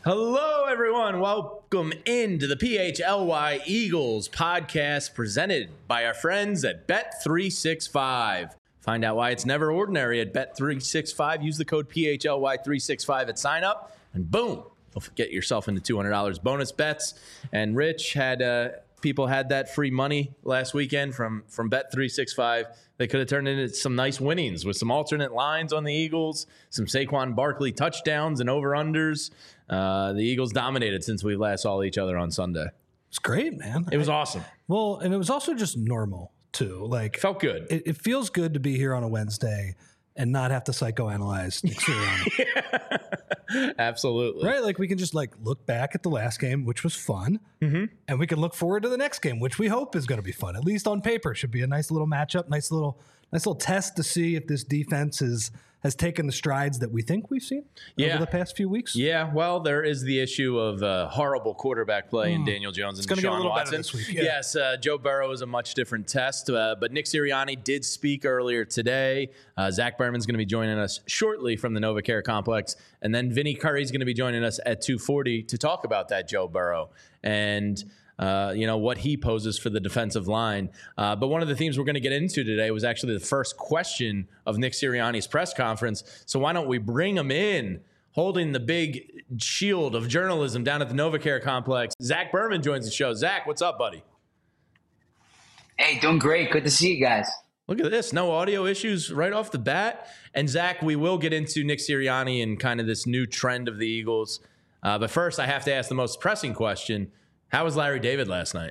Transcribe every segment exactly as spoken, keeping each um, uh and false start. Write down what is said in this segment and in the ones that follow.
Hello, everyone. Welcome into the P H L Y Eagles podcast presented by our friends at Bet three sixty-five. Find out why it's never ordinary at Bet three sixty-five. Use the code P H L Y three sixty-five at sign up, and boom, you'll get yourself into two hundred dollars bonus bets. And Rich had uh, people had that free money last weekend from, from Bet three sixty-five. They could have turned into some nice winnings with some alternate lines on the Eagles, some Saquon Barkley touchdowns and over-unders. Uh, the Eagles dominated since we last saw each other on Sunday. It's great, man. It was I, awesome. Well, and it was also just normal, too. Like, felt good. It, it feels good to be here on a Wednesday and not have to psychoanalyze Nick Sirianni. Yeah. Absolutely. Right? Like, we can just, like, look back at the last game, which was fun, mm-hmm. and we can look forward to the next game, which we hope is going to be fun. At least on paper, should be a nice little matchup, nice little nice little test to see if this defense is has taken the strides that we think we've seen yeah. over the past few weeks. Yeah, well, there is the issue of uh, horrible quarterback play mm. in Daniel Jones and Deshaun Watson. This week, yeah. Yes, uh, Joe Burrow is a much different test, uh, but Nick Sirianni did speak earlier today. Uh, Zach Berman's going to be joining us shortly from the NovaCare Complex, and then Vinny Curry's going to be joining us at two forty to talk about that Joe Burrow and Uh, you know, what he poses for the defensive line. Uh, but one of the themes we're going to get into today was actually the first question of Nick Sirianni's press conference. So why don't we bring him in, holding the big shield of journalism down at the NovaCare Complex. Zach Berman joins the show. Zach, what's up, buddy? Hey, doing great. Good to see you guys. Look at this. No audio issues right off the bat. And Zach, we will get into Nick Sirianni and kind of this new trend of the Eagles. Uh, but first, I have to ask the most pressing question. How was Larry David last night?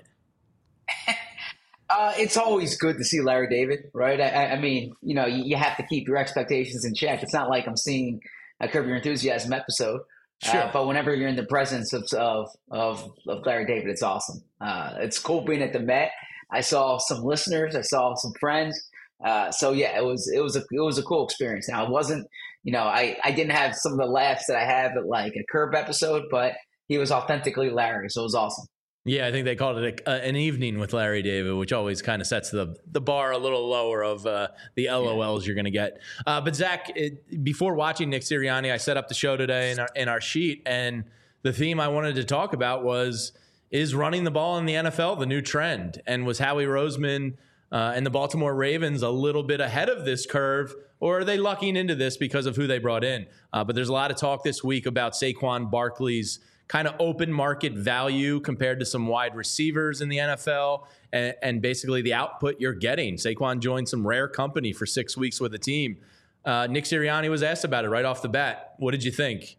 uh, it's always good to see Larry David, right? I, I mean, you know, you, you have to keep your expectations in check. It's not like I'm seeing a Curb Your Enthusiasm episode. Sure. Uh, but whenever you're in the presence of of of, of Larry David, it's awesome. Uh, it's cool being at the Met. I saw some listeners. I saw some friends. Uh, so yeah, it was it was a it was a cool experience. Now it wasn't, you know, I, I didn't have some of the laughs that I have at like a Curb episode, but he was authentically Larry, so it was awesome. Yeah, I think they called it a, uh, an evening with Larry David, which always kind of sets the the bar a little lower of uh, the L O Ls yeah. you're going to get. Uh, but Zach, it, before watching Nick Sirianni, I set up the show today in our, in our sheet, and the theme I wanted to talk about was, is running the ball in the N F L the new trend? And was Howie Roseman uh, and the Baltimore Ravens a little bit ahead of this curve, or are they lucking into this because of who they brought in? Uh, but there's a lot of talk this week about Saquon Barkley's kind of open market value compared to some wide receivers in the N F L and, and basically the output you're getting. Saquon joined some rare company for six weeks with the team. Uh, Nick Sirianni was asked about it right off the bat. What did you think?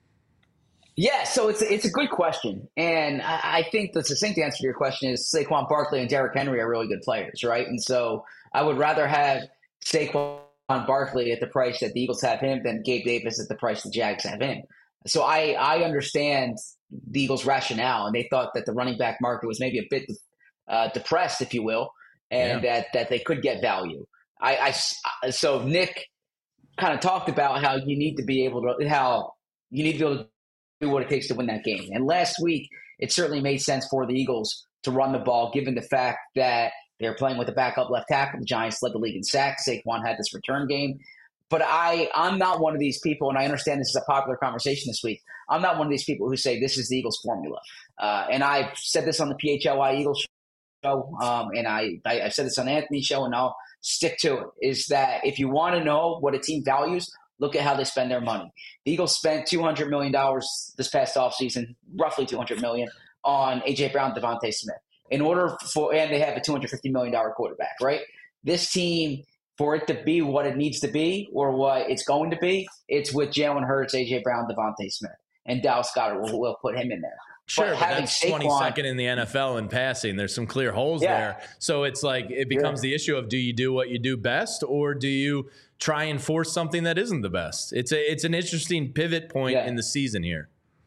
Yeah, so it's it's a good question. And I, I think the succinct answer to your question is Saquon Barkley and Derrick Henry are really good players, right? And so I would rather have Saquon Barkley at the price that the Eagles have him than Gabe Davis at the price the Jags have him. So I, I understand the Eagles' rationale, and they thought that the running back market was maybe a bit uh, depressed, if you will, and yeah. that, that they could get value. I, I so Nick kind of talked about how you need to be able to how you need to be able to do what it takes to win that game. And last week, it certainly made sense for the Eagles to run the ball, given the fact that they're playing with a backup left tackle. The Giants led the league in sacks. Saquon had this return game. But I, I'm not one of these people, and I understand this is a popular conversation this week. I'm not one of these people who say this is the Eagles formula. Uh, and I've said this on the P H L Y Eagles show, um, and I, I, I've said this on Anthony's show, and I'll stick to it, is that if you want to know what a team values, look at how they spend their money. The Eagles spent two hundred million dollars this past offseason, roughly two hundred million dollars on A J. Brown, Devontae Smith. In order for, and they have a two hundred fifty million dollars quarterback, right? This team, for it to be what it needs to be or what it's going to be, it's with Jalen Hurts, A J. Brown, Devontae Smith, and Dallas Goedert will, will put him in there. Sure, but, but that's Saquon, twenty-second in the N F L in passing. There's some clear holes yeah. there. So it's like it becomes yeah. the issue of, do you do what you do best, or do you try and force something that isn't the best? It's a it's an interesting pivot point yeah. in the season here.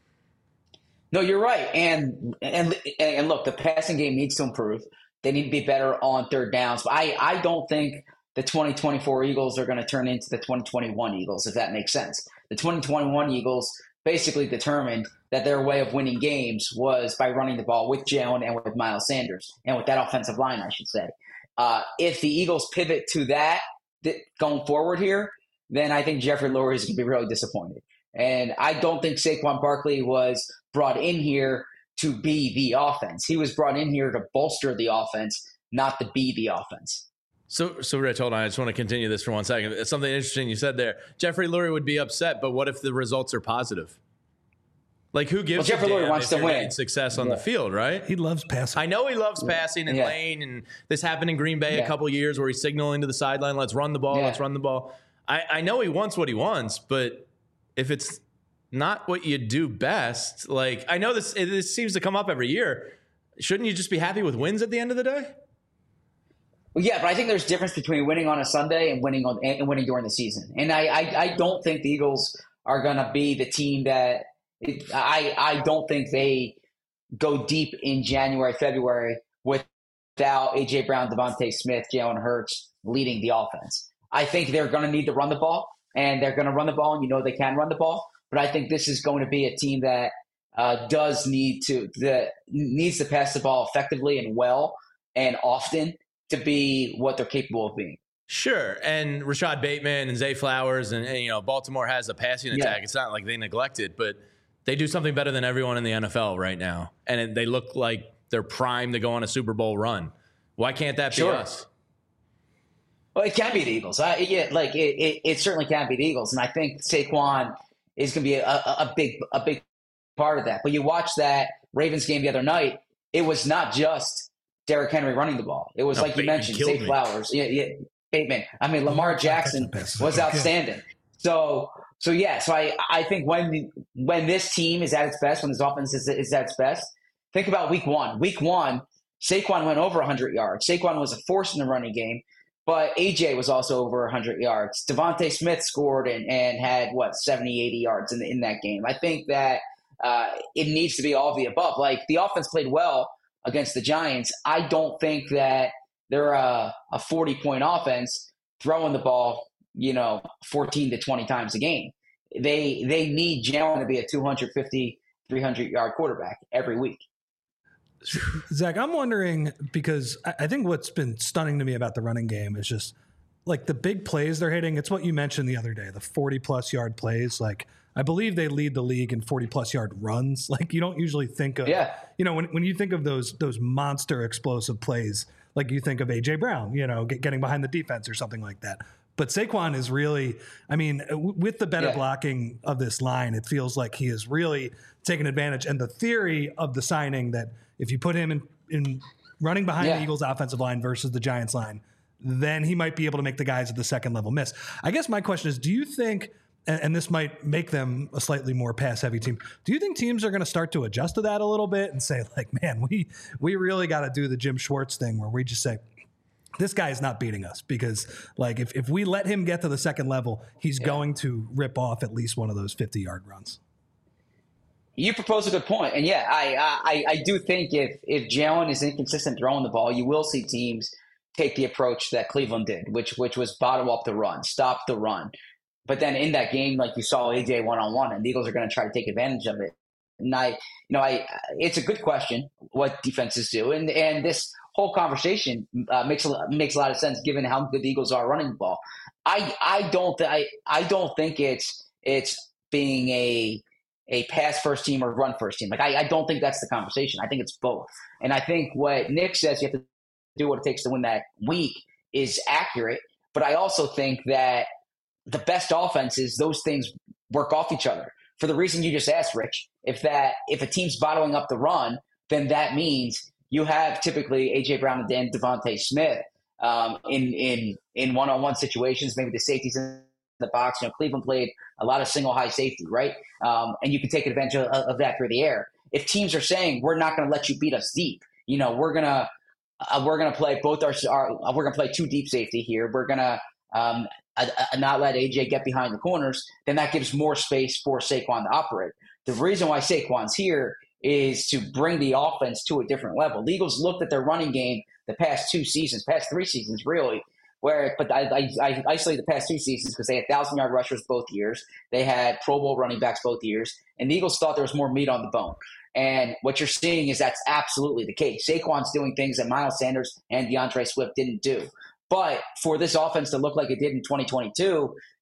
No, you're right. And and and look, the passing game needs to improve. They need to be better on third downs. But I, I don't think the twenty twenty-four Eagles are going to turn into the twenty twenty-one Eagles, if that makes sense. The twenty twenty-one Eagles basically determined that their way of winning games was by running the ball with Jalen and with Miles Sanders, and with that offensive line, I should say. Uh, if the Eagles pivot to that, that going forward here, then I think Jeffrey Lurie is going to be really disappointed. And I don't think Saquon Barkley was brought in here to be the offense. He was brought in here to bolster the offense, not to be the offense. So, so Rich, hold on. I just want to continue this for one second. It's something interesting you said there. Jeffrey Lurie would be upset, but what if the results are positive? Like, who gives well, Jeffrey a damn Lurie wants if to you're win getting success on yeah. the field, right? He loves passing. I know he loves passing and yeah. lane, and this happened in Green Bay yeah. a couple of years where he's signaling to the sideline, let's run the ball, yeah. let's run the ball. I, I know he wants what he wants, but if it's not what you do best, like, I know this, it, this seems to come up every year. Shouldn't you just be happy with wins at the end of the day? Well, yeah, but I think there's a difference between winning on a Sunday and winning on and winning during the season. And I, I, I don't think the Eagles are going to be the team that it, I, I don't think they go deep in January, February without A J Brown, Devontae Smith, Jalen Hurts leading the offense. I think they're going to need to run the ball, and they're going to run the ball, and you know they can run the ball. But I think this is going to be a team that uh, does need to the needs to pass the ball effectively and well and often to be what they're capable of being. Sure. And Rashad Bateman and Zay Flowers and, and you know, Baltimore has a passing attack. Yeah. It's not like they neglect it, but they do something better than everyone in the N F L right now. And it, they look like they're primed to go on a Super Bowl run. Why can't that sure. be us? Well, it can be the Eagles. I, yeah, like it, it, it certainly can be the Eagles. And I think Saquon is going to be a, a, a big, a big part of that. But you watch that Ravens game the other night, it was not just Derrick Henry running the ball. It was no, like Bateman you mentioned, Zay Flowers, yeah, yeah, Bateman. I mean, Lamar Jackson was outstanding. So, so yeah. So I, I think when when this team is at its best, when this offense is, is at its best, think about Week One. Week One, Saquon went over one hundred yards. Saquon was a force in the running game, but A J was also over one hundred yards. Devontae Smith scored and, and had what seventy, eighty yards in the, in that game. I think that uh, it needs to be all of the above. Like the offense played well against the Giants. I don't think that they're a, a forty-point offense throwing the ball, you know, fourteen to twenty times a game. They they need Jalen to be a two fifty, three hundred yard quarterback every week. Zach, I'm wondering, because I think what's been stunning to me about the running game is just like the big plays they're hitting. It's what you mentioned the other day, the forty plus yard plays. Like, I believe they lead the league in forty plus yard runs. Like, you don't usually think of, yeah. you know, when, when you think of those, those monster explosive plays, like you think of A J Brown, you know, get, getting behind the defense or something like that. But Saquon is really, I mean, w- with the better yeah. blocking of this line, it feels like he is really taking advantage. And the theory of the signing that if you put him in, in running behind yeah. the Eagles offensive line versus the Giants line, then he might be able to make the guys at the second level miss. I guess my question is, do you think, and, and this might make them a slightly more pass heavy team, do you think teams are going to start to adjust to that a little bit and say, like, man, we, we really got to do the Jim Schwartz thing where we just say, this guy is not beating us, because like if, if we let him get to the second level, he's yeah. going to rip off at least one of those fifty yard runs. You propose a good point. And yeah, I, I, I do think if, if Jalen is inconsistent throwing the ball, you will see teams take the approach that Cleveland did, which, which was bottom up the run, stop the run. But then in that game, like you saw A J one-on-one, and the Eagles are going to try to take advantage of it. And I, you know, I, it's a good question what defenses do. And, and this whole conversation uh, makes a, makes a lot of sense given how good the Eagles are running the ball. I, I don't, th- I, I don't think it's, it's being a, a pass first team or run first team. Like, I, I don't think that's the conversation. I think it's both. And I think what Nick says, you have to do what it takes to win that week, is accurate. But I also think that the best offenses, those things work off each other. For the reason you just asked, Rich, if that if a team's bottling up the run, then that means you have typically A J Brown and Devontae Smith um, in in in one-on-one situations. Maybe the safeties in the box. You know, Cleveland played a lot of single high safety, right? Um, and you can take advantage of, of that through the air. If teams are saying we're not going to let you beat us deep, you know, we're gonna uh, we're gonna play both our, our we're gonna play two deep safety here. We're gonna um, uh, uh, not let A J get behind the corners. Then that gives more space for Saquon to operate. The reason why Saquon's here is to bring the offense to a different level. The Eagles looked at their running game the past two seasons, past three seasons, really. Where, but I, I, I isolate the past two seasons because they had thousand-yard rushers both years. They had Pro Bowl running backs both years. And the Eagles thought there was more meat on the bone. And what you're seeing is that's absolutely the case. Saquon's doing things that Miles Sanders and DeAndre Swift didn't do. But for this offense to look like it did in twenty twenty-two,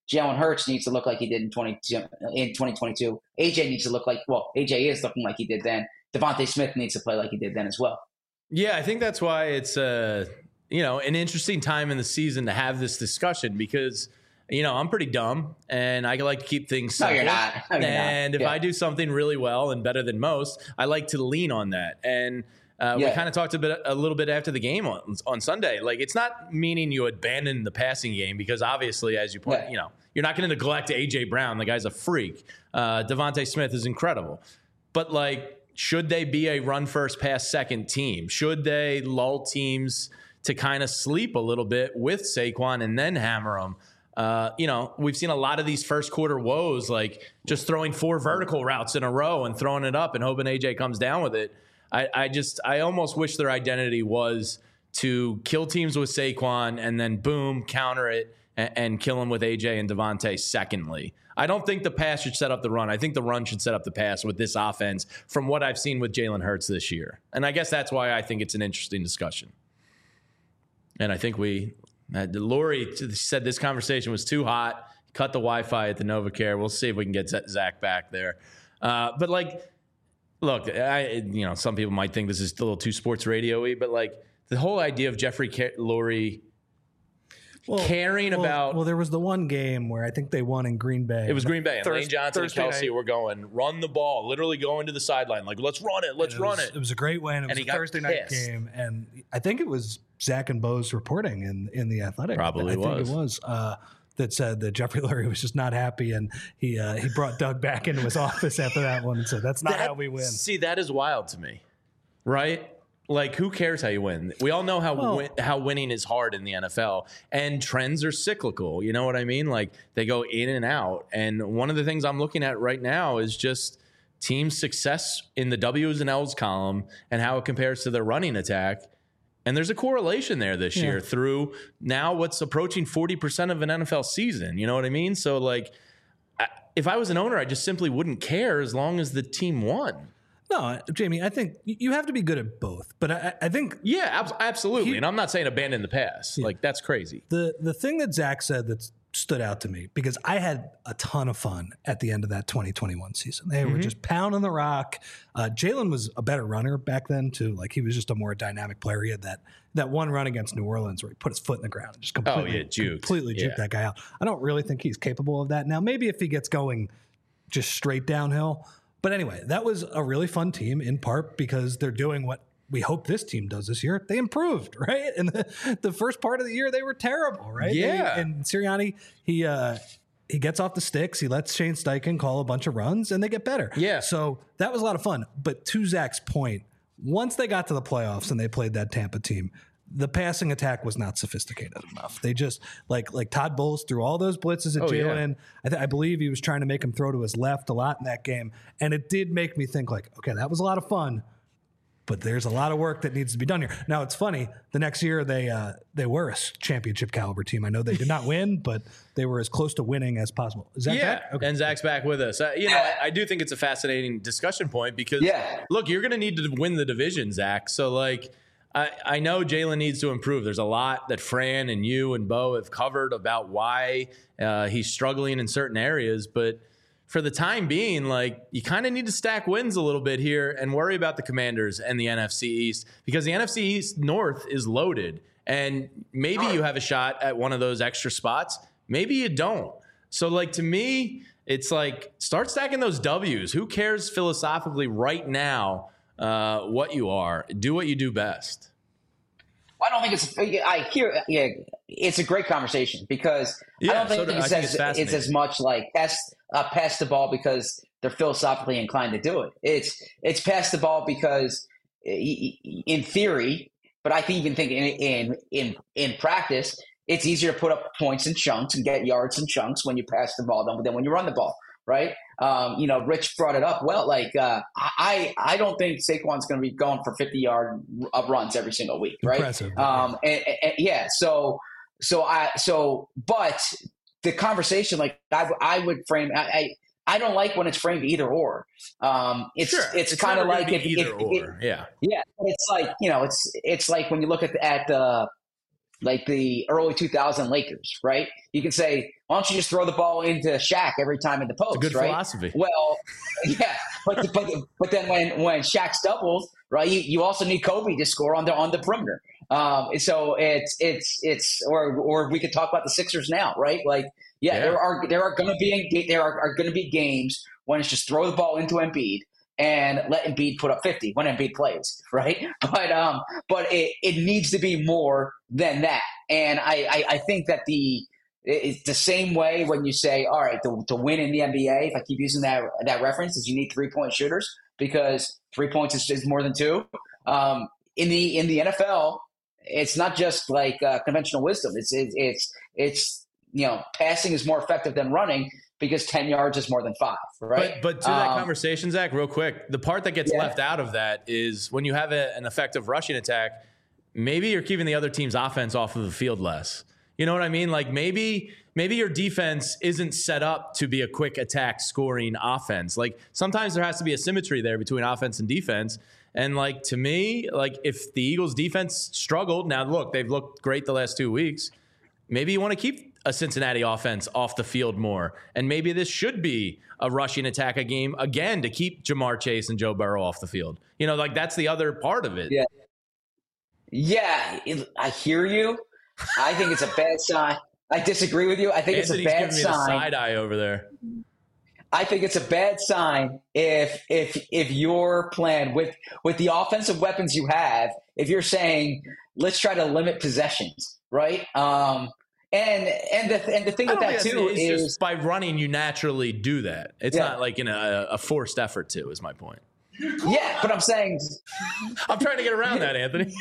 Jalen Hurts needs to look like he did in twenty in twenty twenty-two. A J needs to look like well, A J is looking like he did then. Devontae Smith needs to play like he did then as well. Yeah, I think that's why it's uh, you know an interesting time in the season to have this discussion because you know I'm pretty dumb and I like to keep things simple. No, you're not. No, you're and not. if Yeah. I do something really well and better than most, I like to lean on that. And uh, Yeah. we kind of talked a bit a little bit after the game on, on Sunday. Like it's not meaning you abandon the passing game because obviously, as you point, Yeah. you know, you're not going to neglect A J Brown. The guy's a freak. Uh, Devontae Smith is incredible, but like. Should they be a run first, pass second team? Should they lull teams to kind of sleep a little bit with Saquon and then hammer them? Uh, you know, we've seen a lot of these first quarter woes, like just throwing four vertical routes in a row and throwing it up and hoping A J comes down with it. I, I just, I almost wish their identity was to kill teams with Saquon and then boom, counter it and, and kill them with A J and Devontae secondly. I don't think the pass should set up the run. I think the run should set up the pass with this offense from what I've seen with Jalen Hurts this year. And I guess that's why I think it's an interesting discussion. And I think we, uh, Lori said this conversation was too hot, cut the Wi-Fi at the NovaCare. We'll see if we can get Zach back there. Uh, but like, look, I, you know, some people might think this is a little too sports radio-y, but like the whole idea of Jeffrey Car- Lurie Well, caring well, about. Well, there was the one game where I think they won in Green Bay. It was Green Bay. And Thurs- Lane Johnson Thursday and Kelsey night. were going, run the ball, literally going to the sideline. Like, let's run it. Let's It run was, it. It was a great win. It was And he a got Thursday night pissed. game, and I think it was Zach and Bo's reporting in in the Athletic. Probably I think was. it was uh, that said that Jeffrey Lurie was just not happy, and he uh, he brought Doug back into his office after that one and said, "That's not That- how we win." See, that is wild to me, right? Like, who cares how you win? We all know how Well- win, how winning is hard in the N F L, and trends are cyclical. You know what I mean? Like, they go in and out. And one of the things I'm looking at right now is just team success in the W's and L's column and how it compares to their running attack. And there's a correlation there this Yeah. year through now what's approaching forty percent of an N F L season. You know what I mean? So, like, I, if I was an owner, I just simply wouldn't care as long as the team won. No, Jamie, I think you have to be good at both, but I, I think Yeah, ab- absolutely. He- and I'm not saying abandon the pass. Like, that's crazy. the the thing that Zach said that stood out to me, because I had a ton of fun at the end of that twenty twenty-one season. They Mm-hmm. were just pounding the rock. Uh, Jalen was a better runner back then too. Like, he was just a more dynamic player. He had that that one run against New Orleans where he put his foot in the ground and just completely, Oh, yeah, juked. completely juked Yeah. that guy out. I don't really think he's capable of that now. Maybe if he gets going just straight downhill. But anyway, that was a really fun team, in part because they're doing what we hope this team does this year. They improved, right? And the, the first part of the year, they were terrible, right? Yeah. They, and Sirianni, he uh, he gets off the sticks. He lets Shane Steichen call a bunch of runs, and they get better. Yeah. So that was a lot of fun. But to Zach's point, once they got to the playoffs and they played that Tampa team, the passing attack was not sophisticated enough. They just like like Todd Bowles threw all those blitzes at Oh, yeah. Jalen. I, th- I believe he was trying to make him throw to his left a lot in that game, and it did make me think like, okay, that was a lot of fun, but there's a lot of work that needs to be done here. Now it's funny. The next year they uh, they were a championship caliber team. I know they did not win, but they were as close to winning as possible. Is that Yeah, back? Okay. and Zach's back with us. Uh, you know, I, I do think it's a fascinating discussion point because, Yeah. look, you're going to need to win the division, Zach. So, like, I, I know Jalen needs to improve. There's a lot that Fran and you and Bo have covered about why uh, he's struggling in certain areas, but for the time being, like, you kind of need to stack wins a little bit here and worry about the Commanders and the N F C East because the N F C East North is loaded. And maybe you have a shot at one of those extra spots. Maybe you don't. So, like, to me, it's like start stacking those W's. Who cares philosophically right now uh, what you are? Do what you do best. I don't think it's. I hear. Yeah, it's a great conversation because Yeah, I don't think, so do- it's, I think as, it's fascinating. it's as much like pass uh, pass the ball because they're philosophically inclined to do it. It's it's pass the ball because, in theory, but I even think in in in in practice, it's easier to put up points in chunks and get yards in chunks when you pass the ball than, than when you run the ball, right? Um, you know, Rich brought it up. Well, like uh, I I don't think Saquon's going to be going for fifty yard runs every single week, right? Impressive. Um, and, and, yeah, so so I so but the conversation, like I, I would frame, I, I I don't like when it's framed either or. Um, it's Sure. it's, kind of never gonna like be if, either if, or. if yeah. yeah, it's like you know, it's it's like when you look at the, at the like the early two thousand Lakers, right? You can say, why don't you just throw the ball into Shaq every time in the post, It's a good right? philosophy. Well, yeah, but but but then when when Shaq's doubles, right, you, you also need Kobe to score on the on the perimeter. Um, so it's it's it's or or we could talk about the Sixers now, right? Like, yeah, Yeah. there are there are going to be there are, are going to be games when it's just throw the ball into Embiid and let Embiid put up fifty when Embiid plays, right? But um, but it, it needs to be more than that, and I I, I think that the it's the same way when you say, all right, to, to win in the N B A, if I keep using that that reference, is you need three point shooters because three points is, is more than two. Um, in the in the N F L, it's not just like uh, conventional wisdom. It's it, it's it's you know, passing is more effective than running because ten yards is more than five, right? But, but to that um, conversation, Zach, real quick, the part that gets yeah. left out of that is when you have a, an effective rushing attack, maybe you're keeping the other team's offense off of the field less. You know what I mean? Like maybe maybe your defense isn't set up to be a quick attack scoring offense. Like sometimes there has to be a symmetry there between offense and defense. And like to me, like if the Eagles defense struggled, now look, they've looked great the last two weeks. Maybe you want to keep a Cincinnati offense off the field more. And maybe this should be a rushing attack a game again to keep Jamar Chase and Joe Burrow off the field. You know, like that's the other part of it. Yeah. Yeah, it, I hear you. I think it's a bad sign. I disagree with you. I think Anthony's it's a bad giving me the sign. side eye over there. I think it's a bad sign if if if your plan with with the offensive weapons you have, if you're saying let's try to limit possessions, right? Um, and and the and the thing I with don't that think too it's is just by running you naturally do that. It's Yeah. not like in a, a forced effort to. Is my point. yeah, but I'm saying, I'm trying to get around that, Anthony.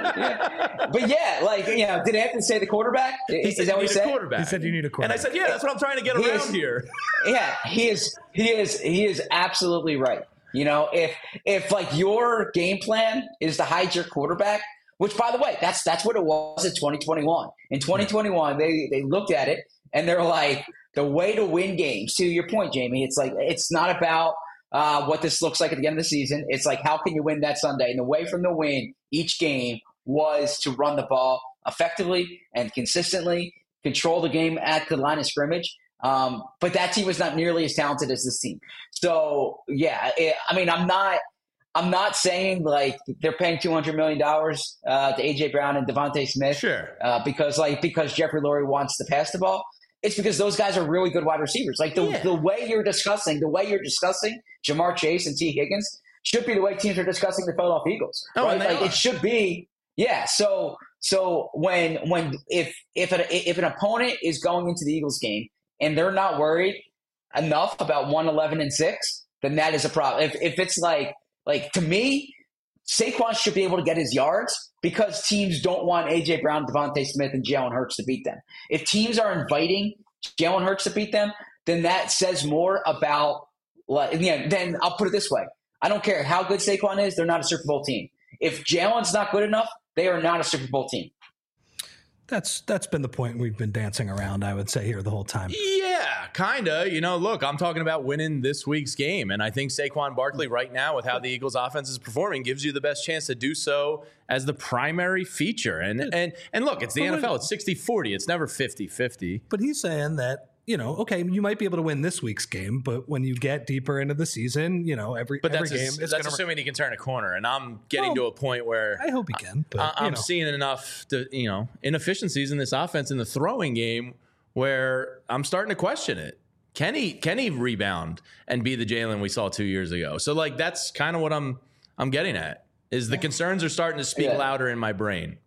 but yeah, like you know, did Anthony say the quarterback? He Is said that you what need he a said? quarterback. He said you need a And quarterback. I said, yeah, that's what I'm trying to get He around is- here. Yeah, he is. He is. He is absolutely right. You know, if if like your game plan is to hide your quarterback, which by the way, that's that's what it was in twenty twenty-one. In twenty twenty-one, they they looked at it and they're like, the way to win games. To your point, Jamie, it's like it's not about uh, what this looks like at the end of the season. It's like how can you win that Sunday? And the way from the win each game was to run the ball effectively and consistently, control the game at the line of scrimmage. Um, but that team was not nearly as talented as this team. So yeah, it, I mean, I'm not, I'm not saying like they're paying two hundred million dollars uh, to A J Brown and Devontae Smith Sure. uh, because like because Jeffrey Lurie wants to pass the ball. It's because those guys are really good wide receivers. Like the Yeah. the way you're discussing, the way you're discussing Jamar Chase and T Higgins should be the way teams are discussing the Philadelphia Eagles. Oh, right? and they Like are. it should be. Yeah. So so when when if if an, if an opponent is going into the Eagles game and they're not worried enough about one eleven and six, then that is a problem. If if it's like like to me, Saquon should be able to get his yards because teams don't want A J Brown, Devontae Smith, and Jalen Hurts to beat them. If teams are inviting Jalen Hurts to beat them, then that says more about like yeah, then I'll put it this way. I don't care how good Saquon is, they're not a Super Bowl team. If Jalen's not good enough, they are not a Super Bowl team. That's that's been the point we've been dancing around, I would say, here the whole time. Yeah, kind of. You know, look, I'm talking about winning this week's game. And I think Saquon Barkley right now, with how the Eagles offense is performing, gives you the best chance to do so as the primary feature. And and and look, it's the N F L. It's sixty forty. It's never fifty fifty. But he's saying that, you know, okay, you might be able to win this week's game, but when you get deeper into the season, you know, every, But every that's, game ass- is that's gonna, assuming he can turn a corner. And I'm getting Well, to a point where I hope he can. But, I- you I'm know. seeing enough, to, you know, inefficiencies in this offense in the throwing game where I'm starting to question it. Can he can he rebound and be the Jalen we saw two years ago? So like that's kind of what I'm I'm getting at. Is the concerns are starting to speak Yeah. louder in my brain.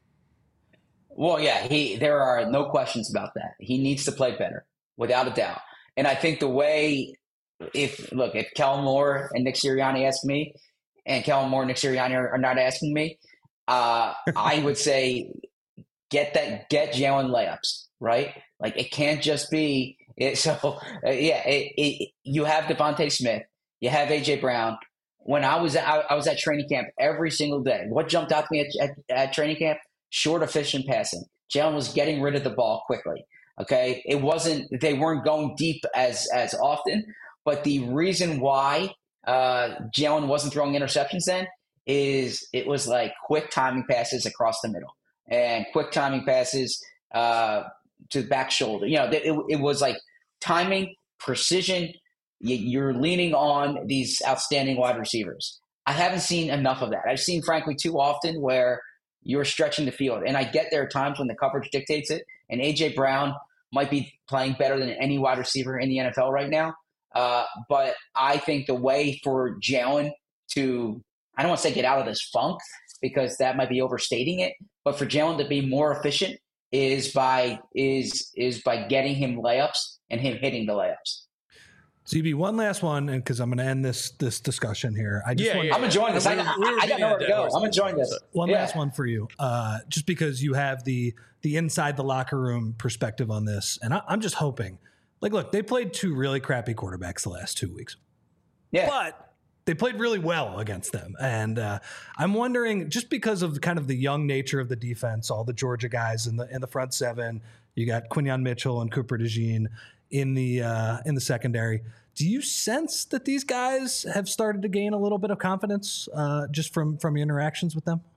Well, yeah, he. There are no questions about that. He needs to play better, without a doubt. And I think the way, if look, if Kellen Moore and Nick Sirianni ask me, and Kellen Moore and Nick Sirianni are, are not asking me, uh, I would say get that, get Jalen layups, right? Like it can't just be it, so. Uh, yeah, it, it, you have Devontae Smith, you have A J Brown. When I was at, I, I was at training camp every single day. What jumped out to me at, at, at training camp? Short, efficient passing. Jalen was getting rid of the ball quickly. Okay, it wasn't. They weren't going deep as as often. But the reason why uh, Jalen wasn't throwing interceptions then is it was like quick timing passes across the middle. and quick timing passes uh, to the back shoulder. You know, it, it was like timing, precision. You're leaning on these outstanding wide receivers. I haven't seen enough of that. I've seen, frankly, too often where you're stretching the field. And I get there are times when the coverage dictates it. And A J. Brown might be playing better than any wide receiver in the N F L right now. Uh, but I think the way for Jalen to, I don't want to say get out of this funk because that might be overstating it, but for Jalen to be more efficient is by is is by getting him layups and him hitting the layups. Z B, one last one, and because I'm going to end this this discussion here. I just yeah, want, yeah, I'm enjoying this. I, we were, I, we were I got nowhere to go. I'm enjoying this. One yeah. last one for you, uh, just because you have the the inside the locker room perspective on this, and I, I'm just hoping. Like, look, they played two really crappy quarterbacks the last two weeks. Yeah, but they played really well against them, and uh, I'm wondering, just because of kind of the young nature of the defense, all the Georgia guys in the in the front seven, you got Quinyon Mitchell and Cooper DeJean in the uh, in the secondary. Do you sense that these guys have started to gain a little bit of confidence uh, just from, from your interactions with them?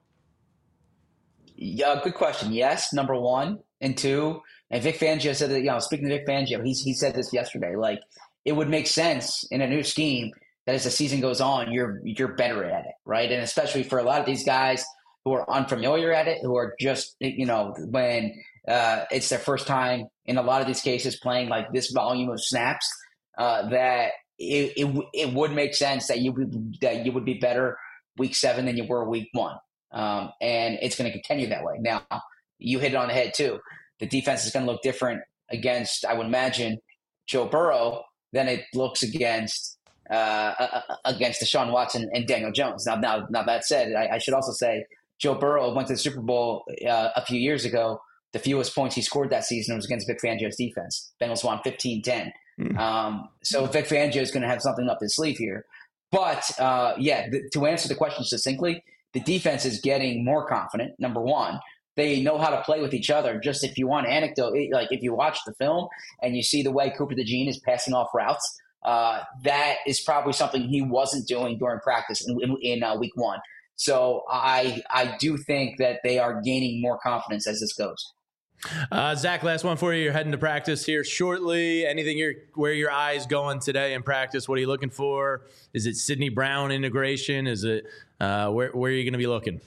Yeah, good question. Yes, number one. And two, and Vic Fangio said that, you know, speaking to Vic Fangio, he, he said this yesterday, like it would make sense in a new scheme that as the season goes on, you're you're better at it, right? And especially for a lot of these guys who are unfamiliar at it, who are just, you know, when uh, it's their first time in a lot of these cases playing like this volume of snaps, Uh, that it, it it would make sense that you would that you would be better week seven than you were week one, um, and it's going to continue that way. Now, you hit it on the head too. The defense is going to look different against, I would imagine, Joe Burrow than it looks against uh, against Deshaun Watson and Daniel Jones. Now, now, now that said, I, I should also say Joe Burrow went to the Super Bowl uh, a few years ago. The fewest points he scored that season was against Vic Fangio's defense. Bengals won fifteen ten. Um, so Vic Fangio is going to have something up his sleeve here. But, uh, yeah, th- to answer the question succinctly, the defense is getting more confident, number one. They know how to play with each other. Just if you want anecdote, like if you watch the film and you see the way Cooper DeJean is passing off routes, uh, that is probably something he wasn't doing during practice in, in, in uh, week one. So I I do think that they are gaining more confidence as this goes. Uh, Zach, last one for you. You're heading to practice here shortly. Anything you're, where your eyes going today in practice? What are you looking for? Is it Sidney Brown integration? Is it uh, where where are you going to be looking?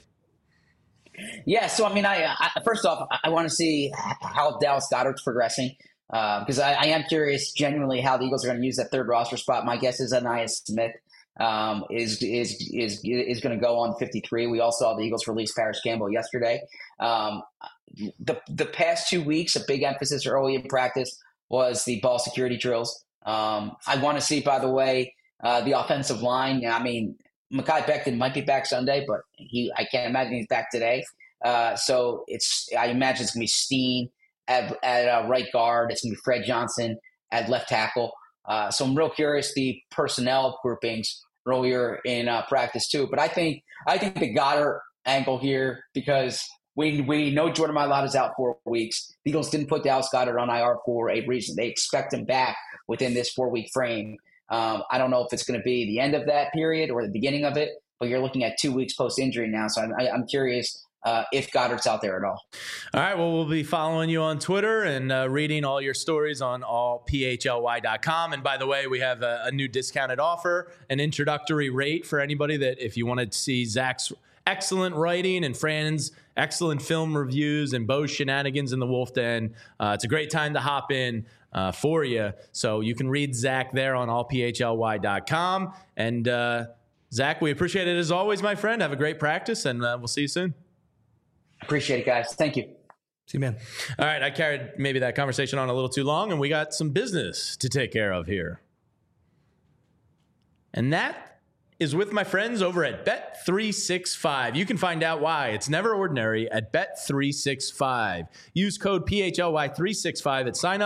Yeah, so I mean, I, I first off, I want to see how Dallas Goedert's progressing because uh, I, I am curious genuinely how the Eagles are going to use that third roster spot. My guess is Anaya Smith um, is is is is going to go on fifty-three. We all saw the Eagles release Paris Campbell yesterday. Um, the the past two weeks, a big emphasis early in practice was the ball security drills. Um, I want to see, by the way, uh, the offensive line. I mean, Mekhi Becton might be back Sunday, but he I can't imagine he's back today. Uh, so it's I imagine it's going to be Steen at, at uh, right guard. It's going to be Fred Johnson at left tackle. Uh, so I'm real curious the personnel groupings earlier in uh, practice too. But I think I think the Goddard angle here, because we we know Jordan Mailata is out four weeks. The Eagles didn't put Dallas Goedert on I R for a reason. They expect him back within this four week frame. Um, I don't know if it's going to be the end of that period or the beginning of it, but you're looking at two weeks post injury now. So I'm, I, I'm curious. Uh, if Goddard's out there at all. All right. Well, we'll be following you on Twitter and uh, reading all your stories on all P H L Y dot com. And by the way, we have a, a new discounted offer, an introductory rate for anybody that if you wanted to see Zach's excellent writing and Fran's excellent film reviews and Bo's shenanigans in the Wolf Den. Uh, it's a great time to hop in uh, for you. So you can read Zach there on all P H L Y dot com. And uh, Zach, we appreciate it as always, my friend. Have a great practice, and uh, we'll see you soon. Appreciate it, guys. Thank you. See you, man. All right. I carried maybe that conversation on a little too long, and we got some business to take care of here. And that is with my friends over at Bet three sixty-five. You can find out why it's never ordinary at Bet three sixty-five. Use code P H L Y three sixty-five at sign up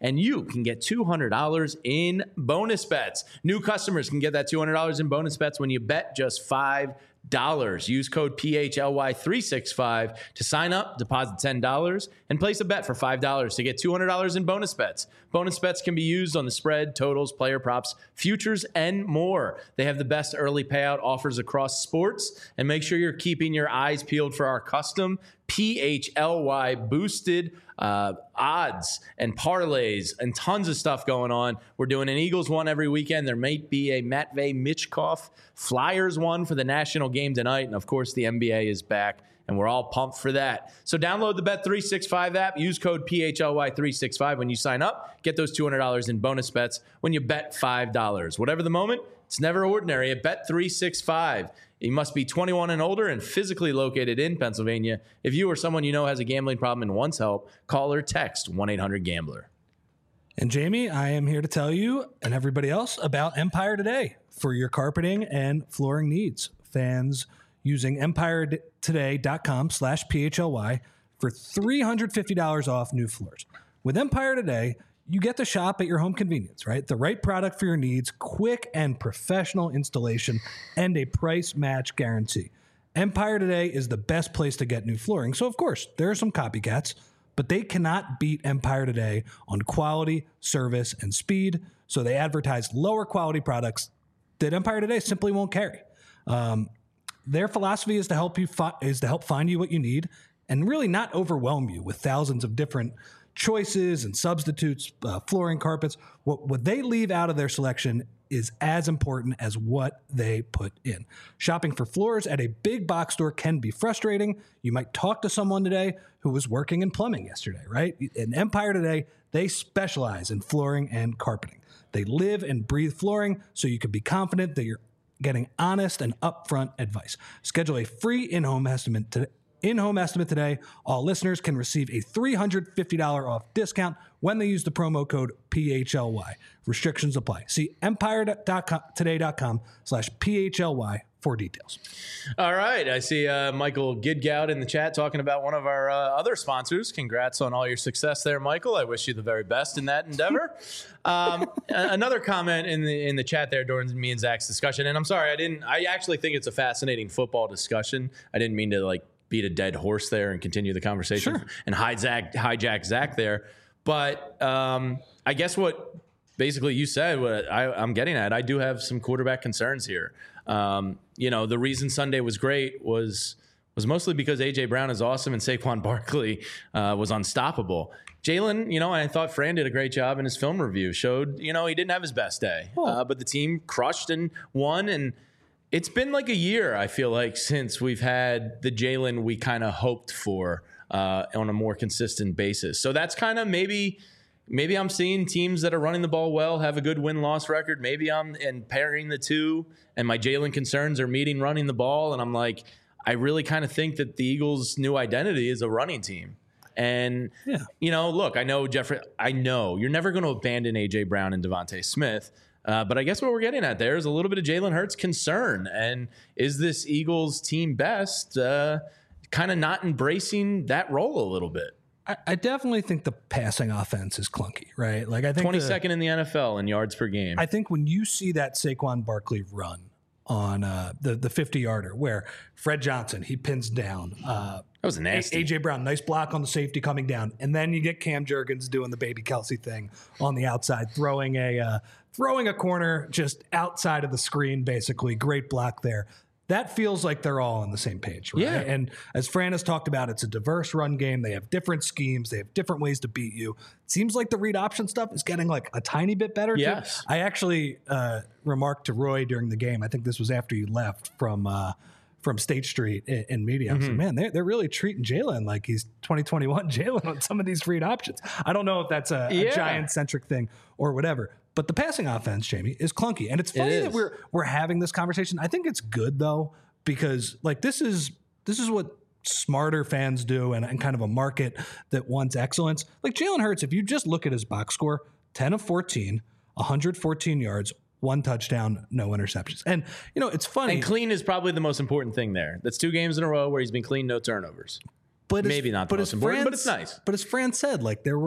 and you can get two hundred dollars in bonus bets. New customers can get that two hundred dollars in bonus bets when you bet just five dollars. Use code P H L Y three sixty-five to sign up, deposit ten dollars, and place a bet for five dollars to get two hundred dollars in bonus bets. Bonus bets can be used on the spread, totals, player props, futures, and more. They have the best early payout offers across sports, and make sure you're keeping your eyes peeled for our custom P H L Y boosted uh, odds and parlays and tons of stuff going on. We're doing an Eagles one every weekend. There might be a Matvey Michkov Flyers one for the national game tonight. And of course, the N B A is back, and we're all pumped for that. So download the Bet three sixty-five app. Use code P H L Y three sixty-five when you sign up. Get those two hundred dollars in bonus bets when you bet five dollars. Whatever the moment, it's never ordinary at Bet three sixty-five. You must be twenty-one and older and physically located in Pennsylvania. If you or someone you know has a gambling problem and wants help, call or text one eight hundred gambler. And Jamie, I am here to tell you and everybody else about Empire Today for your carpeting and flooring needs. Fans using empire today dot com slash P H L Y for three hundred fifty dollars off new floors. With Empire Today, you get to shop at your home convenience, right? The right product for your needs, quick and professional installation, and a price match guarantee. Empire Today is the best place to get new flooring. So, of course, there are some copycats, but they cannot beat Empire Today on quality, service, and speed. So they advertise lower quality products that Empire Today simply won't carry. Um, their philosophy is to help you fi- is to help find you what you need and really not overwhelm you with thousands of different choices and substitutes, uh, flooring, carpets. What, what they leave out of their selection is as important as what they put in. Shopping for floors at a big box store can be frustrating. You might talk to someone today who was working in plumbing yesterday, right? In Empire Today, they specialize in flooring and carpeting. They live and breathe flooring, so you can be confident that you're getting honest and upfront advice. Schedule a free in-home estimate today. In-home estimate today. All listeners can receive a three hundred fifty dollars off discount when they use the promo code P H L Y. Restrictions apply. See empire today dot com slash P H L Y for details. All right. I see uh, Michael Gidgout in the chat talking about one of our uh, other sponsors. Congrats on all your success there, Michael. I wish you the very best in that endeavor. um, another comment in the in the chat there during me and Zach's discussion, and I'm sorry, I didn't. I actually think it's a fascinating football discussion. I didn't mean to like beat a dead horse there and continue the conversation sure. and hijack, hijack Zach there. But um, I guess what basically you said, what I, I'm getting at, I do have some quarterback concerns here. Um, you know, the reason Sunday was great was was mostly because A J Brown is awesome and Saquon Barkley uh, was unstoppable. Jalen, you know, and I thought Fran did a great job in his film review, showed, you know, he didn't have his best day, oh. uh, but the team crushed and won. And it's been like a year, I feel like, since we've had the Jalen we kind of hoped for uh, on a more consistent basis. So that's kind of maybe maybe I'm seeing teams that are running the ball well have a good win-loss record. Maybe I'm and pairing the two, and my Jalen concerns are meeting running the ball. And I'm like, I really kind of think that the Eagles' new identity is a running team. And, yeah. you know, look, I know, Jeffrey, I know you're never going to abandon A J Brown and Devontae Smith. Uh, but I guess what we're getting at there is a little bit of Jalen Hurts concern. And is this Eagles team best uh, kind of not embracing that role a little bit? I, I definitely think the passing offense is clunky, right? Like I think twenty-second the, in the N F L in yards per game. I think when you see that Saquon Barkley run on uh, the the fifty-yarder where Fred Johnson, he pins down. Uh, that was nasty. A J Brown, nice block on the safety coming down. And then you get Cam Jurgens doing the baby Kelsey thing on the outside, throwing a uh, throwing a corner just outside of the screen, basically. Great block there. That feels like they're all on the same page, right? Yeah. And as Fran has talked about, it's a diverse run game. They have different schemes. They have different ways to beat you. It seems like the read option stuff is getting like a tiny bit better. Yes. Too. I actually uh, remarked to Roy during the game, I think this was after you left from uh, from State Street in, in media. Mm-hmm. I was like, man, they're, they're really treating Jalen like he's twenty twenty-one Jalen on some of these read options. I don't know if that's a, yeah. a Giant-centric thing or whatever. But the passing offense, Jamie, is clunky. And it's funny it that we're we're having this conversation. I think it's good, though, because like this is this is what smarter fans do and, and kind of a market that wants excellence. Like Jalen Hurts, if you just look at his box score, ten of fourteen, one hundred fourteen yards, one touchdown, no interceptions. And, you know, it's funny. And clean is probably the most important thing there. That's two games in a row where he's been clean, no turnovers. But Maybe as, not the but most important, Fran, but it's nice. But as Fran said, like there were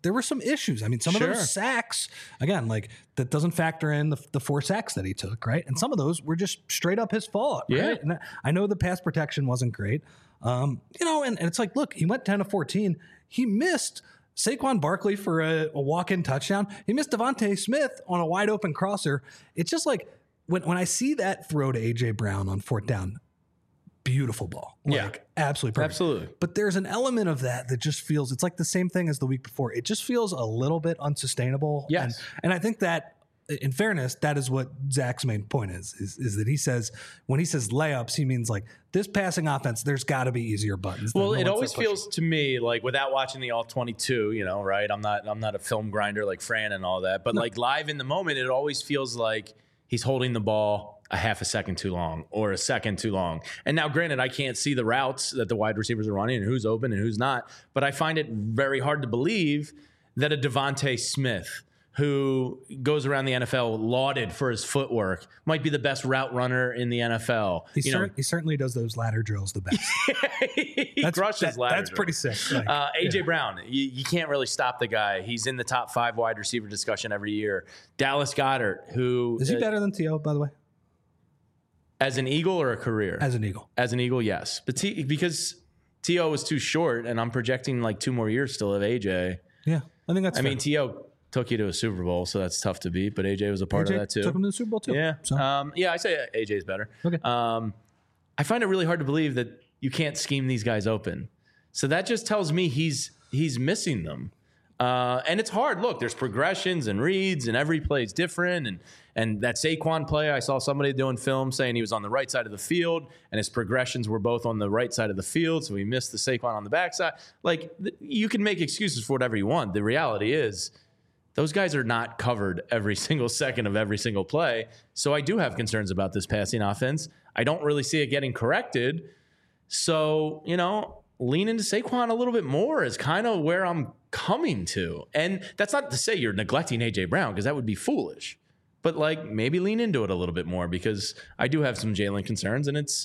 there were some issues. I mean, some Sure. of those sacks, again, like that doesn't factor in the, the four sacks that he took, right? And some of those were just straight up his fault, right? Yeah. And I know the pass protection wasn't great, um, you know, and, and it's like, look, he went ten to fourteen. He missed Saquon Barkley for a, a walk-in touchdown. He missed Devontae Smith on a wide open crosser. It's just like when, when I see that throw to A J Brown on fourth down, beautiful ball. Like, Yeah. absolutely perfect. Absolutely. But there's an element of that that just feels, it's like the same thing as the week before. It just feels a little bit unsustainable. Yes. And, and I think that, in fairness, that is what Zach's main point is, is, is that he says, when he says layups, he means like this passing offense, there's got to be easier buttons. than Well, the it ones always they're pushing. feels to me like without watching the all twenty-two, you know, right? I'm not I'm not a film grinder like Fran and all that, but like live in the moment, it always feels like he's holding the ball a half a second too long or a second too long. And now, granted, I can't see the routes that the wide receivers are running and who's open and who's not, but I find it very hard to believe that a Devontae Smith, who goes around the N F L lauded for his footwork, might be the best route runner in the N F L. He, You cer- know, he certainly does those ladder drills the best. he That's, crushes that- ladder that's drills. pretty sick. Like, Uh, A J yeah. Brown, you, you can't really stop the guy. He's in the top five wide receiver discussion every year. Dallas Goedert, who Is he uh, better than T O, by the way, as an Eagle or a career? as an Eagle? As an Eagle, yes, but T, because T O was too short, and I'm projecting like two more years still of A J. Yeah, I think that's I fair. mean, T O took you to a Super Bowl, so that's tough to beat. But A J was a part A J of that too. took him to the Super Bowl too. Yeah. So. Um, yeah, I say A J's better. Okay. Um, I find it really hard to believe that you can't scheme these guys open. So that just tells me he's he's missing them. Uh, and it's hard. Look, there's progressions and reads, and every play is different. And and that Saquon play, I saw somebody doing film saying he was on the right side of the field, and his progressions were both on the right side of the field, so he missed the Saquon on the backside. Like, th- you can make excuses for whatever you want. The reality is, those guys are not covered every single second of every single play. So I do have concerns about this passing offense. I don't really see it getting corrected. So, you know, lean into Saquon a little bit more is kind of where I'm coming to. And that's not to say you're neglecting A J Brown, because that would be foolish. But like, maybe lean into it a little bit more, because I do have some Jalen concerns, and it's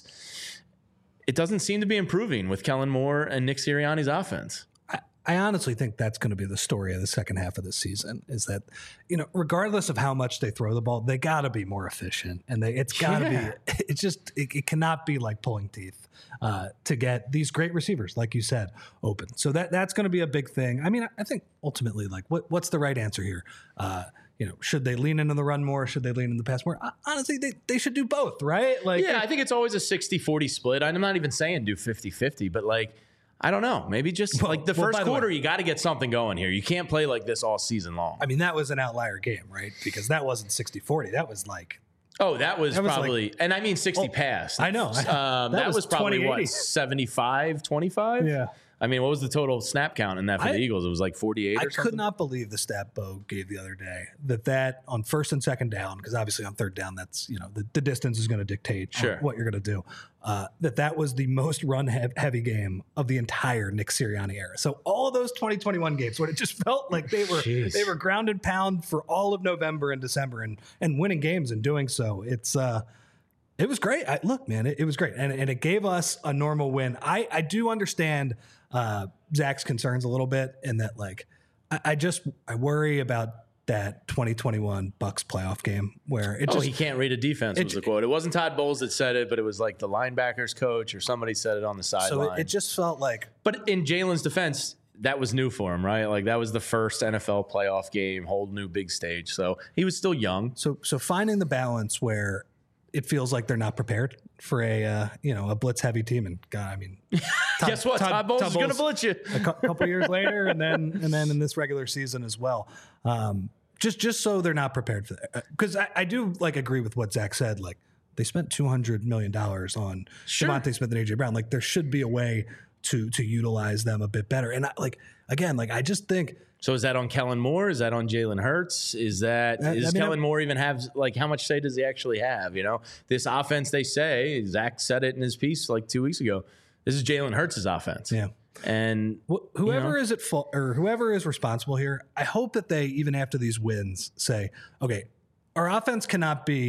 it doesn't seem to be improving with Kellen Moore and Nick Sirianni's offense. I, I honestly think that's going to be the story of the second half of the season, is that, you know, regardless of how much they throw the ball, they got to be more efficient, and they, it's got to Yeah. be, it's just, it, it cannot be like pulling teeth uh, to get these great receivers, like you said, open. So that that's going to be a big thing. I mean, I, I think ultimately, like, what what's the right answer here? Uh, you know, should they lean into the run more? Should they lean in the pass more? Uh, honestly, they, they should do both, right? Like, Yeah, I think it's always a sixty forty split. I'm not even saying do fifty fifty, but like, I don't know. Maybe just Well- like the well, first by the quarter, way- you got to get something going here. You can't play like this all season long. I mean, that was an outlier game, right? Because that wasn't sixty forty. That was like, Oh, that was, That was probably, and I mean sixty Oh, pass. I know. Um, That that, was was, probably twenty eighty. what, seventy-five twenty-five? Yeah. I mean, what was the total snap count in that for I- the Eagles? It was like forty-eight I or something? could not believe the stat Bo gave the other day that that on first and second down, because obviously on third down, that's, you know, the, the distance is going to dictate on Sure. what you're going to do. Uh, that that was the most run hev- heavy game of the entire Nick Sirianni era. So all of those twenty twenty-one games, when it just felt like they were Jeez. they were ground and pound for all of November and December, and and winning games and doing so, it's uh, it was great. I, look, man, it, it was great, and and it gave us a normal win. I I do understand uh, Zach's concerns a little bit, in that, like, I, I just I worry about that twenty twenty-one Bucks playoff game where it Oh, just he can't read a defense it- was the quote. It wasn't Todd Bowles that said it, but it was like the linebackers coach or somebody said it on the so sideline. it, it just felt like But in Jalen's defense, that was new for him, right? Like, that was the first N F L playoff game, whole new big stage. So he was still young. so so finding the balance where it feels like they're not prepared for a uh, you know, a blitz heavy team, and God, I mean, Todd- Guess what? Todd, Bowles is going to blitz you. a cou- couple years later, and then and then in this regular season as well. Um, just just so they're not prepared for that, because I, I do like agree with what Zach said. Like, they spent two hundred million dollars on Sure. Devontae Smith and A J Brown. Like, there should be a way to to utilize them a bit better. And I, like again, like I just think So is that on Kellen Moore? Is that on Jalen Hurts? Is that I- I is mean, Kellen I'm- Moore even have, like, how much say does he actually have? You know, this offense, they say, Zach said it in his piece like two weeks ago. This is Jalen Hurts' offense. yeah. And Wh- Whoever You know? is at fault, or whoever is responsible here, I hope that they, even after these wins, say, okay, our offense cannot be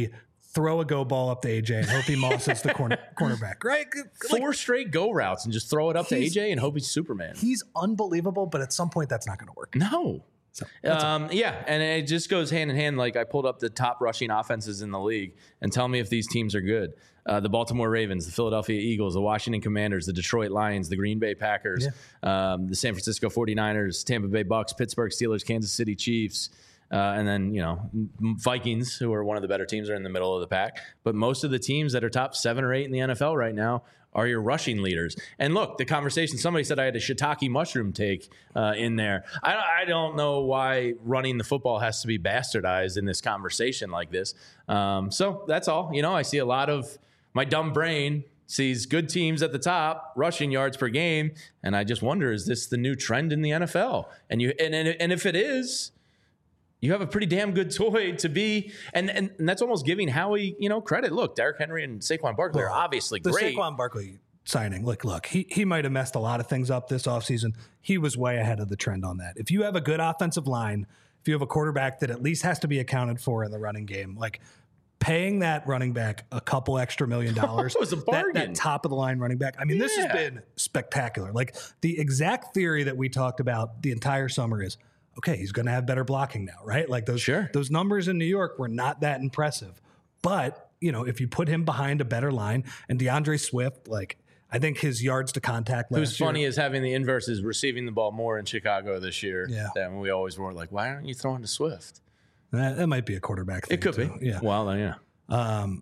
throw a go ball up to A J and hope he mosses the corner cornerback, right? Four Like, straight go routes and just throw it up to A He's- J and hope he's Superman. he's unbelievable, but at some point that's not going to work. No. So, Um, yeah, and it just goes hand in hand. Like I pulled up the top rushing offenses in the league, and tell me if these teams are good. Uh, the Baltimore Ravens, the Philadelphia Eagles, the Washington Commanders, the Detroit Lions, the Green Bay Packers, um, the San Francisco forty-niners, Tampa Bay Bucks, Pittsburgh Steelers, Kansas City Chiefs, uh, and then, you know, Vikings, who are one of the better teams, are in the middle of the pack. But most of the teams that are top seven or eight in the N F L right now are your rushing leaders. And look, the conversation, somebody said I had a shiitake mushroom take uh, in there. I, I don't know why running the football has to be bastardized in this conversation like this. Um, so that's all. You know, I see a lot of my dumb brain sees good teams at the top, rushing yards per game, and I just wonder, is this the new trend in the N F L? And you and and, and if it is, you have a pretty damn good toy to be, and, and and that's almost giving Howie, you know, credit. Look, Derrick Henry and Saquon Barkley are obviously the great. Saquon Barkley signing, look, look, he he might have messed a lot of things up this offseason. He was way ahead of the trend on that. If you have a good offensive line, if you have a quarterback that at least has to be accounted for in the running game, like paying that running back a couple extra million dollars, It was a that, bargain. that top of the line running back. I mean, this has Yeah. been spectacular. Like the exact theory that we talked about the entire summer is, okay, he's going to have better blocking now, right? Like those Sure. those numbers in New York were not that impressive. But, you know, if you put him behind a better line, and DeAndre Swift, like I think his yards to contact last Who's year, funny is having the inverse is receiving the ball more in Chicago this year. Yeah. Than we always were like, why aren't you throwing to Swift? that, that might be a quarterback thing. It could too. be. Yeah. Well, then, yeah. Um,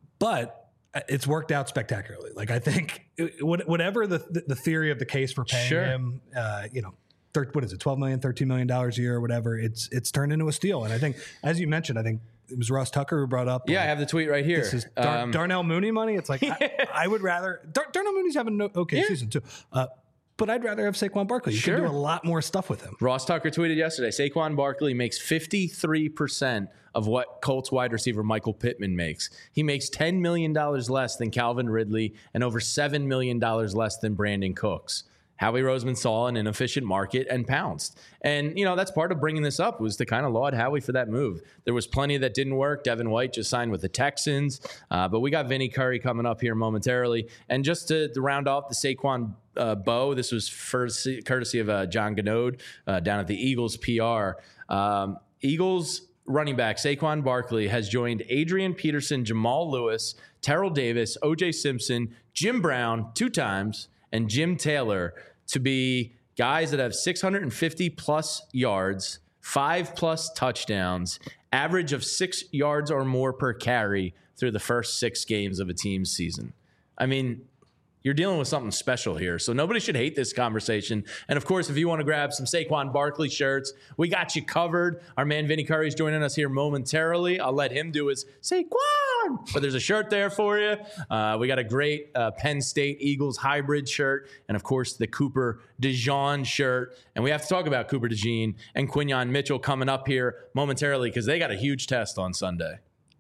but it's worked out spectacularly. Like I think it, what- whatever the, the the theory of the case for paying Sure. him, uh, you know, thir- what is it, twelve million, thirteen million dollars a year or whatever, it's it's turned into a steal. And I think, as you mentioned, I think it was Ross Tucker who brought up. Yeah, I like, have the tweet right here. this is Dar- Um, Darnell Mooney money. It's like, I, I would rather, Dar- Darnell Mooney's having an okay Yeah. season too. Uh, but I'd rather have Saquon Barkley. You can Sure. do a lot more stuff with him. Ross Tucker tweeted yesterday, Saquon Barkley makes fifty-three percent of what Colts wide receiver Michael Pittman makes. He makes ten million dollars less than Calvin Ridley and over seven million dollars less than Brandon Cooks. Howie Roseman saw an inefficient market and pounced. And, you know, that's part of bringing this up was to kind of laud Howie for that move. There was plenty that didn't work. Devin White just signed with the Texans. Uh, but we got Vinny Curry coming up here momentarily. And just to, to round off the Saquon uh, bow, this was first, courtesy of uh, John Ganode uh, down at the Eagles P R. Um, Eagles running back Saquon Barkley has joined Adrian Peterson, Jamal Lewis, Terrell Davis, O J Simpson, Jim Brown two times, and Jim Taylor to be guys that have six hundred fifty plus yards, five plus touchdowns, average of six yards or more per carry through the first six games of a team's season. I mean, you're dealing with something special here. So nobody should hate this conversation. And of course, if you want to grab some Saquon Barkley shirts, we got you covered. Our man Vinny Curry is joining us here momentarily. I'll let him do his Saquon. But there's a shirt there for you. Uh, we got a great uh, Penn State Eagles hybrid shirt. And of course, the Cooper DeJean shirt. And we have to talk about Cooper DeJean and Quinyon Mitchell coming up here momentarily because they got a huge test on Sunday.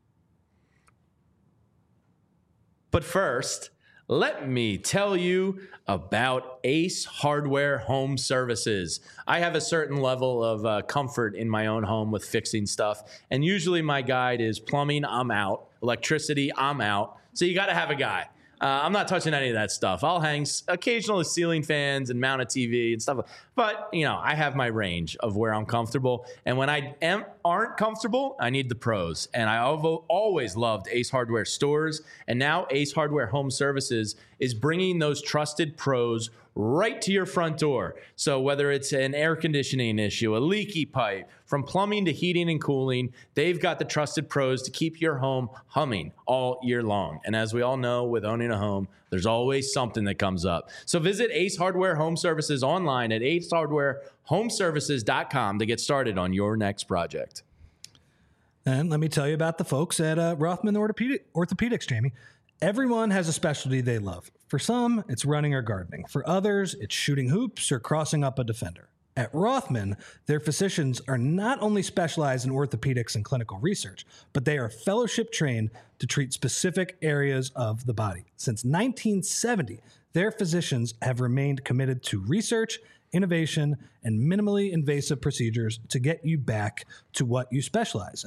But first, let me tell you about Ace Hardware Home Services. I have a certain level of uh, comfort in my own home with fixing stuff. And usually my guide is plumbing, I'm out. Electricity, I'm out. So you got to have a guy. Uh, I'm not touching any of that stuff. I'll hang s- occasional ceiling fans and mount a T V and stuff. But, you know, I have my range of where I'm comfortable. And when I am, aren't comfortable, I need the pros. And I have always loved Ace Hardware stores. And now Ace Hardware Home Services is bringing those trusted pros right to your front door. So whether it's an air conditioning issue, a leaky pipe, from plumbing to heating and cooling, they've got the trusted pros to keep your home humming all year long. And as we all know, with owning a home, there's always something that comes up. So visit Ace Hardware Home Services online at ace hardware home services dot com to get started on your next project. And let me tell you about the folks at uh, Rothman Orthopedic, Orthopedics, Jamie. Everyone has a specialty they love. For some, it's running or gardening. For others, it's shooting hoops or crossing up a defender. At Rothman, their physicians are not only specialized in orthopedics and clinical research, but they are fellowship trained to treat specific areas of the body. Since nineteen seventy, their physicians have remained committed to research, innovation, and minimally invasive procedures to get you back to what you specialize in.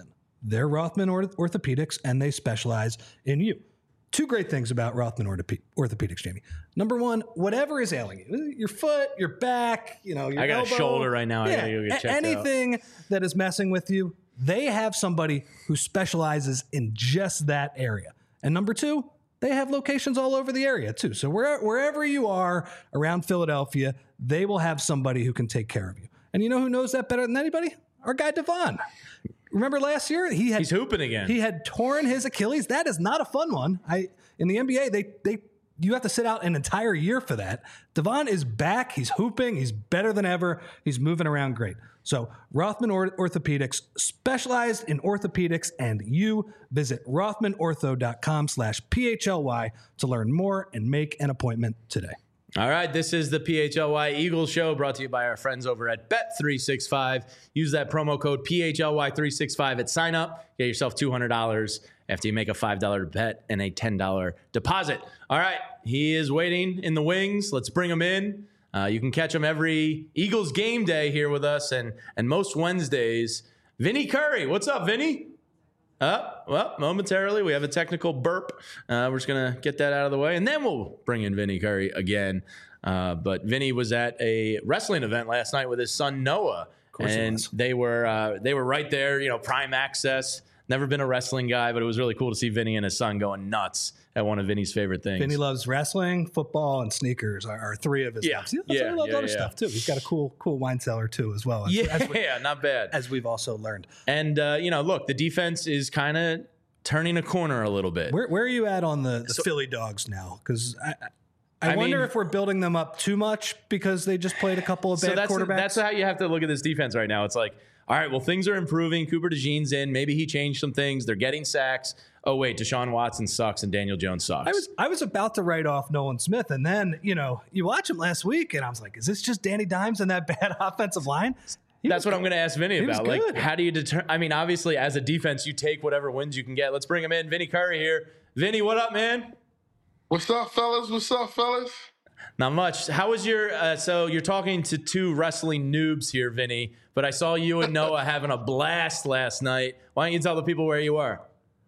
They're Rothman Orth- Orthopedics, and they specialize in you. Two great things about Rothman Orthope- Orthopedics, Jamie. Number one, whatever is ailing you, your foot, your back, you know, your I got elbow, a shoulder right now. Yeah, I gotta go get a- checked anything out. that is messing with you, they have somebody who specializes in just that area. And number two, they have locations all over the area too. So where, wherever you are around Philadelphia, they will have somebody who can take care of you. And you know who knows that better than anybody? Our guy Devon. Remember last year he had He's hooping again. He had torn his Achilles. That is not a fun one. I in the N B A they they you have to sit out an entire year for that. Devon is back. He's hooping. He's better than ever. He's moving around great. So Rothman Orthopedics, specialized in orthopedics, and you visit rothmanortho.com slash PHLY to learn more and make an appointment today. All right, this is the P H L Y Eagles Show, brought to you by our friends over at Bet three sixty-five. Use that promo code P H L Y three sixty-five at sign up. Get yourself two hundred dollars after you make a five dollar bet and a ten dollar deposit. All right, he is waiting in the wings. Let's bring him in. Uh, you can catch him every Eagles game day here with us, and and most Wednesdays. Vinny Curry, what's up, Vinny? Uh, well, momentarily, we have a technical burp. Uh, we're just going to get that out of the way, and then we'll bring in Vinny Curry again. Uh, but Vinny was at a wrestling event last night with his son, Noah, and they were uh, they were right there, you know, prime access. Never been a wrestling guy, but it was really cool to see Vinny and his son going nuts at one of Vinny's favorite things. Vinny loves wrestling, football, and sneakers are, are three of his Yeah. loves. He Yeah, also loves yeah, other yeah. stuff, too. He's got a cool cool wine cellar, too, as well. As, Yeah, as, we, not bad. as we've also learned. And, uh, you know, look, the defense is kind of turning a corner a little bit. Where, where are you at on the, the So- Philly Dogs now? Because I, I, I wonder mean- if we're building them up too much because they just played a couple of So bad that's quarterbacks. that's how you have to look at this defense right now. It's like, all right, well, things are improving. Cooper DeJean's in. Maybe he changed some things. They're getting sacks. Oh, wait, Deshaun Watson sucks and Daniel Jones sucks. I was I was about to write off Nolan Smith, and then, you know, you watch him last week, and I was like, is this just Danny Dimes and that bad offensive line? He That's was what I'm going to ask Vinny he was about. Like, good. how do you determine? I mean, obviously, as a defense, you take whatever wins you can get. Let's bring him in. Vinny Curry here. Vinny, what up, man? What's up, fellas? What's up, fellas? Not much. How was your? Uh, so you're talking to two wrestling noobs here, Vinny. But I saw you and Noah having a blast last night. Why don't you tell the people where you are?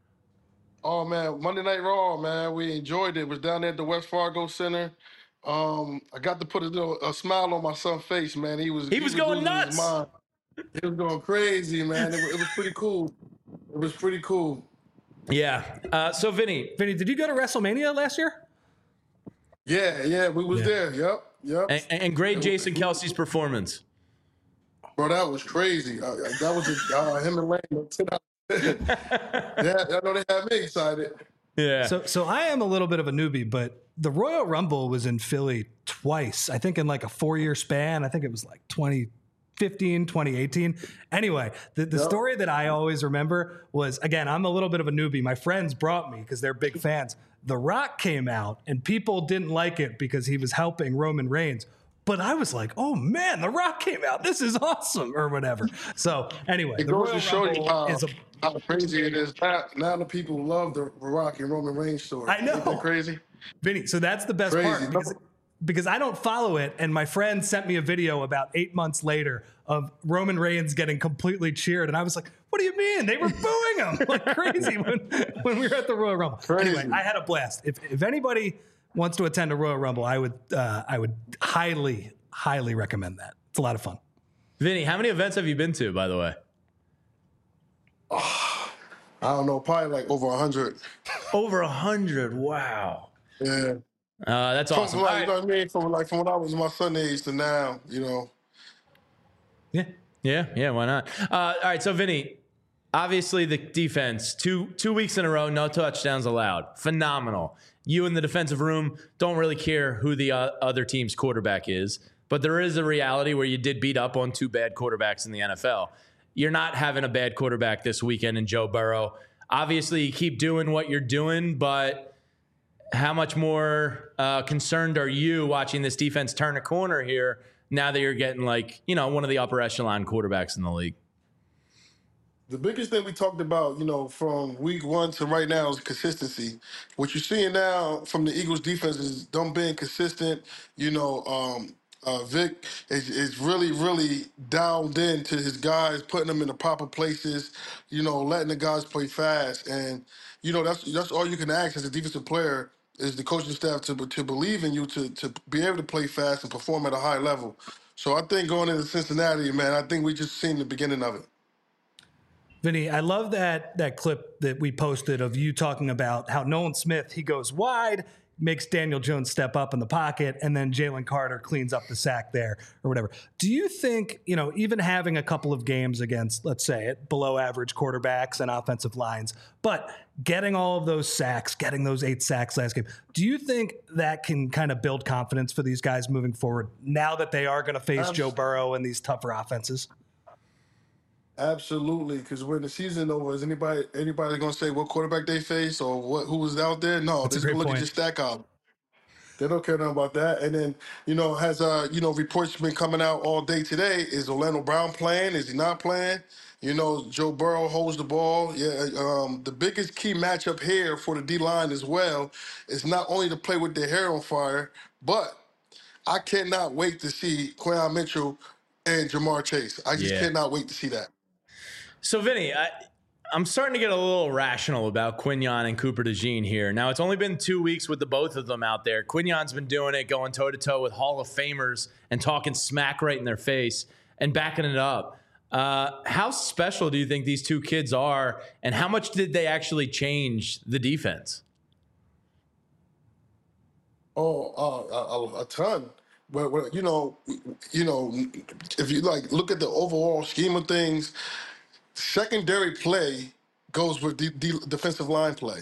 Oh man, Monday Night Raw, man. We enjoyed it. It was down there at the West Fargo Center. Um, I got to put a little a smile on my son's face, man. He was He was going losing his nuts. mind. He was going crazy, man. It, wa- it was pretty cool. It was pretty cool. Yeah. Uh, so Vinny, Vinny, did you go to WrestleMania last year? Yeah, yeah, we was Yeah. there. Yep, yep. and, and grade Jason Kelsey's performance. Bro, that was crazy. Uh, that was a, uh, him and Lane. ten out of ten. Yeah, I know they had me excited. Yeah. So so I am a little bit of a newbie, but the Royal Rumble was in Philly twice. I think in like a four-year span. I think it was like twenty fifteen, twenty eighteen. Anyway, the, the Yep. story that I always remember was, again, I'm a little bit of a newbie. My friends brought me because they're big fans. The Rock came out and people didn't like it because he was helping Roman Reigns. But I was like, oh man, The Rock came out. This is awesome, or whatever. So anyway, It the goes Royal to show you Rumble how, is a how crazy it is. Now, now the people love the Rock and Roman Reigns story. I know. Ain't that crazy? Vinny, so that's the best Crazy. part because, because I don't follow it. And my friend sent me a video about eight months later of Roman Reigns getting completely cheered. And I was like, what do you mean? They were booing him like crazy when, when we were at the Royal Rumble. Crazy. Anyway, I had a blast. If, if anybody wants to attend a Royal Rumble, I would, uh, I would highly, highly recommend that. It's a lot of fun. Vinny, how many events have you been to, by the way? I don't know, probably like over a hundred. Over a hundred. Wow. Yeah. Uh, that's From, awesome. like, All you right. know what I mean? From like from when I was my son age to now, you know. Yeah. Yeah, yeah, why not? Uh, all right, so Vinny, obviously the defense, two two weeks in a row, no touchdowns allowed. Phenomenal. You in the defensive room don't really care who the uh, other team's quarterback is, but there is a reality where you did beat up on two bad quarterbacks in the N F L. You're not having a bad quarterback this weekend in Joe Burrow. Obviously, you keep doing what you're doing, but how much more uh, concerned are you watching this defense turn a corner here now that you're getting like, you know, one of the upper echelon quarterbacks in the league? The biggest thing we talked about, you know, from week one to right now is consistency. What you're seeing now from the Eagles defense is them being consistent, you know, um, Uh, Vic is, is really, really dialed into his guys, putting them in the proper places, you know, letting the guys play fast. And, you know, that's that's all you can ask as a defensive player is the coaching staff to to believe in you to, to be able to play fast and perform at a high level. So I think going into Cincinnati, man, I think we just seen the beginning of it. Vinny, I love that that clip that we posted of you talking about how Nolan Smith, he goes wide, makes Daniel Jones step up in the pocket, and then Jalen Carter cleans up the sack there or whatever. Do you think, you know, even having a couple of games against, let's say it, below average quarterbacks and offensive lines, but getting all of those sacks, getting those eight sacks last game, do you think that can kind of build confidence for these guys moving forward now that they are going to face Joe Burrow and these tougher offenses? Absolutely, because when the season over, is anybody anybody gonna say what quarterback they face or what who was out there? No, That's they're a just great gonna look point. at your stack out. They don't care nothing about that. And then, you know, has uh, you know, reports been coming out all day today. Is Orlando Brown playing? Is he not playing? You know, Joe Burrow holds the ball. Yeah, um, the biggest key matchup here for the D line as well is not only to play with their hair on fire, but I cannot wait to see Quinyon Mitchell and Jamar Chase. I just Yeah. cannot wait to see that. So, Vinny, I, I'm starting to get a little rational about Quinyon and Cooper DeJean here. Now, it's only been two weeks with the both of them out there. Quinyon's been doing it, going toe-to-toe with Hall of Famers and talking smack right in their face and backing it up. Uh, how special do you think these two kids are, and how much did they actually change the defense? Oh, uh, a, a ton. But, but you know, you know, if you like look at the overall scheme of things, secondary play goes with the, the defensive line play.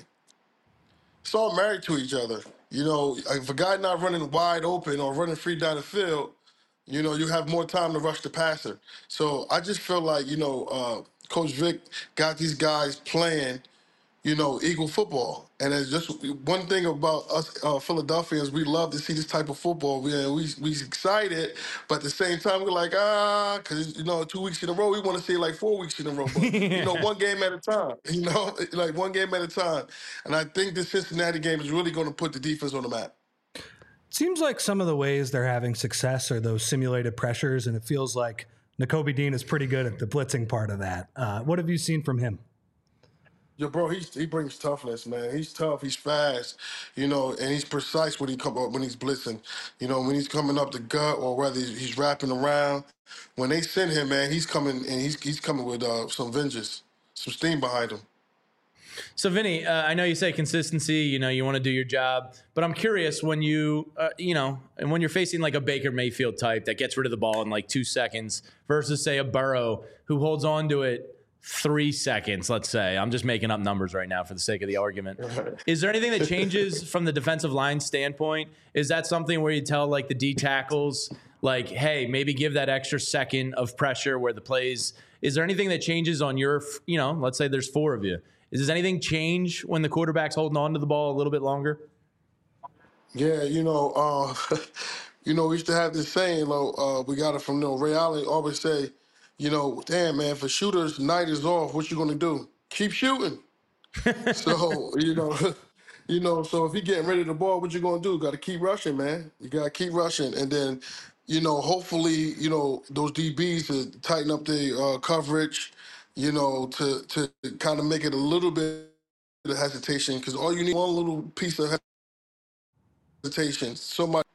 It's all married to each other. You know, if a guy not running wide open or running free down the field, you know, you have more time to rush the passer. So I just feel like, you know, uh, Coach Vic got these guys playing, you know, Eagle football. And it's just one thing about us uh, Philadelphians, we love to see this type of football. We we we excited, but at the same time, we're like, ah, because, you know, two weeks in a row, we want to see like four weeks in a row. But, you know, one game at a time, you know, like one game at a time. And I think this Cincinnati game is really going to put the defense on the map. Seems like some of the ways they're having success are those simulated pressures, and it feels like Nakobe Dean is pretty good at the blitzing part of that. Uh, what have you seen from him? Yo, bro, he's, he brings toughness, man. He's tough. He's fast, you know, and he's precise when he come up when he's blitzing. You know, when he's coming up the gut or whether he's, he's wrapping around. When they send him, man, he's coming and he's he's coming with uh, some vengeance, some steam behind him. So, Vinny, uh, I know you say consistency, you know, you want to do your job, but I'm curious when you, uh, you know, and when you're facing like a Baker Mayfield type that gets rid of the ball in like two seconds versus, say, a Burrow who holds on to it three seconds, let's say. I'm just making up numbers right now for the sake of the argument. Is there anything that changes from the defensive line standpoint? Is that something where you tell like the D tackles, like, hey, maybe give that extra second of pressure where the plays, is there anything that changes on your, you know, let's say there's four of you. Does anything change when the quarterback's holding on to the ball a little bit longer? Yeah, you know, uh, you know, we used to have this saying, uh, we got it from, you know, Ray Allen always say, you know, damn, man, for shooters, night is off. What you going to do? Keep shooting. So, you know, you know, so if you're getting ready to ball, what you going to do? Got to keep rushing, man. You got to keep rushing. And then, you know, hopefully, you know, those D Bs to tighten up the uh, coverage, you know, to, to kind of make it a little bit of hesitation, because all you need one little piece of hesitation. So much.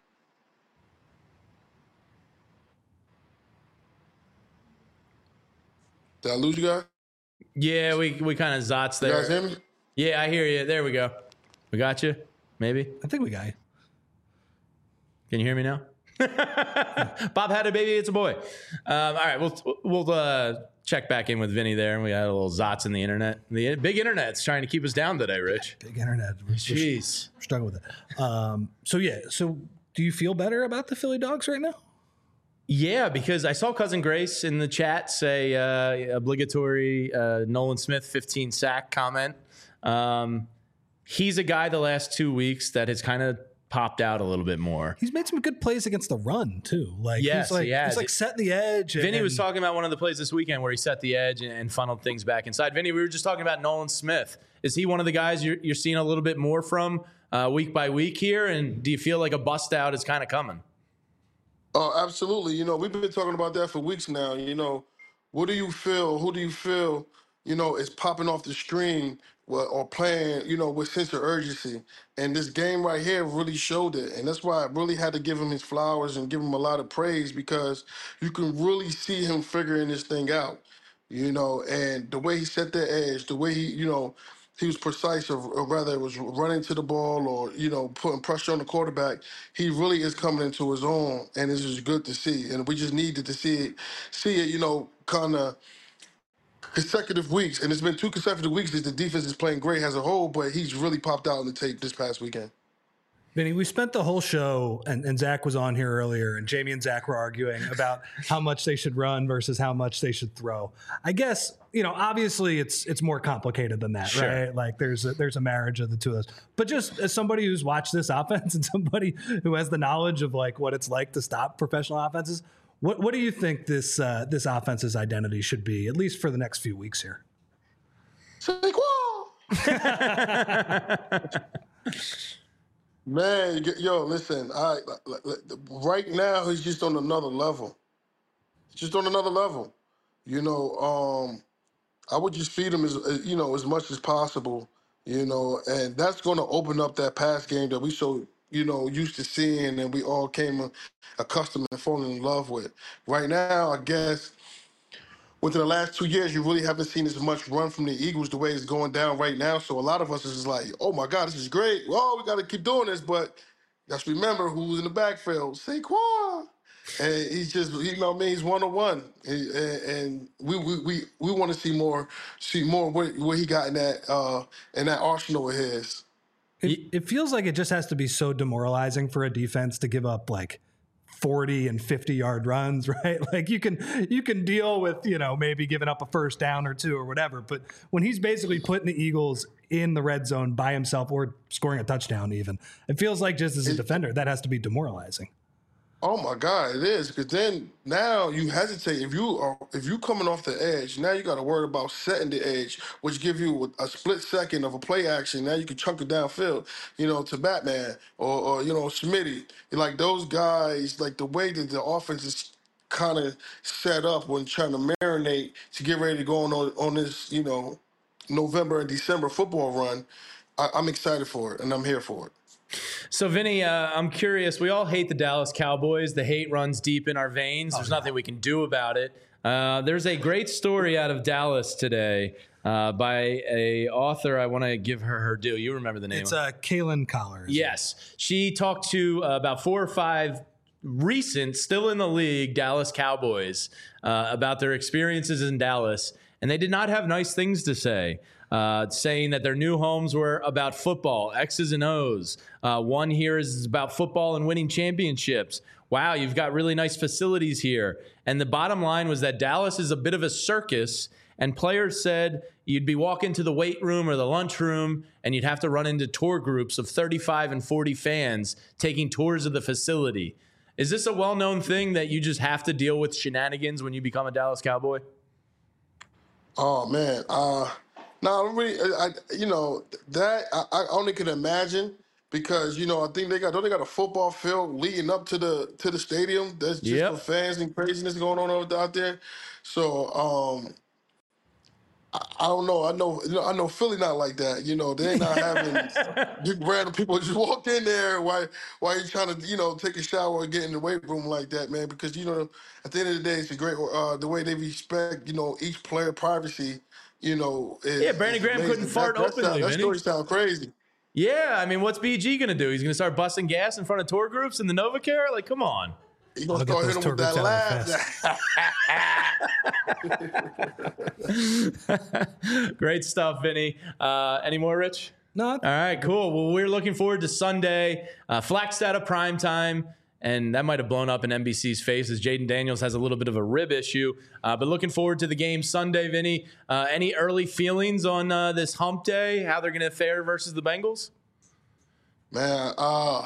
Did I lose you guys? Yeah, we we kind of zots You there. guys hear me? Yeah, I hear you. There we go. We got you? Maybe? I think we got you. Can you hear me now? Bob had a baby. It's a boy. Um, all right, we'll we'll uh, check back in with Vinny there, and we had a little zots in the internet. The big internet's trying to keep us down today, Rich. Big internet. We're, Jeez, we're struggling with it. Um, so yeah. So do you feel better about the Philly Dogs right now? Yeah, because I saw Cousin Grace in the chat say uh, obligatory uh, Nolan Smith fifteen sack comment. Um, he's a guy the last two weeks that has kind of popped out a little bit more. He's made some good plays against the run too. Like yes, he's like he has. he's like setting the edge. And, Vinny was talking about one of the plays this weekend where he set the edge and, and funneled things back inside. Vinny, we were just talking about Nolan Smith. Is he one of the guys you're, you're seeing a little bit more from uh, week by week here? And do you feel like a bust out is kind of coming? Oh, absolutely. You know, we've been talking about that for weeks now. You know, what do you feel? Who do you feel, you know, is popping off the screen or or playing, you know, with sense of urgency? And this game right here really showed it. And that's why I really had to give him his flowers and give him a lot of praise because you can really see him figuring this thing out, you know, and the way he set the edge, the way he, you know, he was precise, or, or rather it was running to the ball or, you know, putting pressure on the quarterback. He really is coming into his own, and it's just good to see. And we just needed to see it, see it, you know, kind of consecutive weeks. And it's been two consecutive weeks that the defense is playing great as a whole, but he's really popped out on the tape this past weekend. Vinny, we spent the whole show, and, and Zach was on here earlier, and Jamie and Zach were arguing about how much they should run versus how much they should throw. I guess, you know, obviously it's it's more complicated than that, sure. right? Like there's a, there's a marriage of the two of those. But just as somebody who's watched this offense and somebody who has the knowledge of like what it's like to stop professional offenses, what what do you think this uh, this offense's identity should be, at least for the next few weeks here? Man, yo, listen, I right now he's just on another level. Just on another level. You know, um, I would just feed him as you know as much as possible. You know, and that's going to open up that pass game that we so you know used to seeing, and we all came accustomed and falling in love with. Right now, I guess. Within the last two years, you really haven't seen as much run from the Eagles the way it's going down right now. So a lot of us is just like, oh my God, this is great. Well, we got to keep doing this. But let's remember who's in the backfield. Saquon. And he's just, you know what I mean? He's one on one. And, and we we we, we want to see more, see more what, what he got in that, uh, in that arsenal of his. It, it feels like it just has to be so demoralizing for a defense to give up like forty and fifty yard runs, right? Like you can you can deal with, you know, maybe giving up a first down or two or whatever, but when he's basically putting the Eagles in the red zone by himself or scoring a touchdown even, it feels like just as a defender that has to be demoralizing. Oh my God, it is, because then now you hesitate. If you are if you coming off the edge, now you got to worry about setting the edge, which give you a split second of a play action. Now you can chunk it downfield, you know, to Batman or, or you know Smitty. Like those guys, like the way that the offense is kind of set up when trying to marinate to get ready to go on on this, you know, November and December football run. I, I'm excited for it, and I'm here for it. So, Vinny, uh, I'm curious. We all hate the Dallas Cowboys. The hate runs deep in our veins. There's oh, nothing we can do about it. Uh, there's a great story out of Dallas today uh, by a author. I want to give her her due. You remember the name? It's uh, Kaylin Collar. Yes. She talked to uh, about four or five recent, still in the league, Dallas Cowboys uh, about their experiences in Dallas, and they did not have nice things to say. Uh, saying that their new homes were about football, X's and O's. Uh, one here is about football and winning championships. Wow, you've got really nice facilities here. And the bottom line was that Dallas is a bit of a circus, and players said you'd be walking to the weight room or the lunchroom, and you'd have to run into tour groups of thirty-five and forty fans taking tours of the facility. Is this a well-known thing that you just have to deal with shenanigans when you become a Dallas Cowboy? Oh, man. Uh... No, I really, I, you know, that I, I only can imagine because, you know, I think they got, don't they got a football field leading up to the to the stadium that's just yep. for fans and craziness going on out there. So, um, I, I don't know. I know, you know, I know Philly not like that. You know, they're not having just random people just walk in there while while you're trying to, you know, take a shower or get in the weight room like that, man. Because, you know, at the end of the day, it's a great uh, the way they respect, you know, each player privacy. You know, is, yeah, Brandon Graham amazing. couldn't fart that, openly. That, that story sounds crazy. Yeah, I mean, what's B G going to do? He's going to start busting gas in front of tour groups in the NovaCare? Like, come on. He's going to start hitting him with that laugh. Great stuff, Vinny. Uh, any more, Rich? No. All right, cool. Well, we're looking forward to Sunday. Uh, Flagstaff at prime time. And that might have blown up in N B C's face as Jaden Daniels has a little bit of a rib issue. Uh, but looking forward to the game Sunday, Vinny. Uh, any early feelings on uh, this hump day, how they're going to fare versus the Bengals? Man, uh,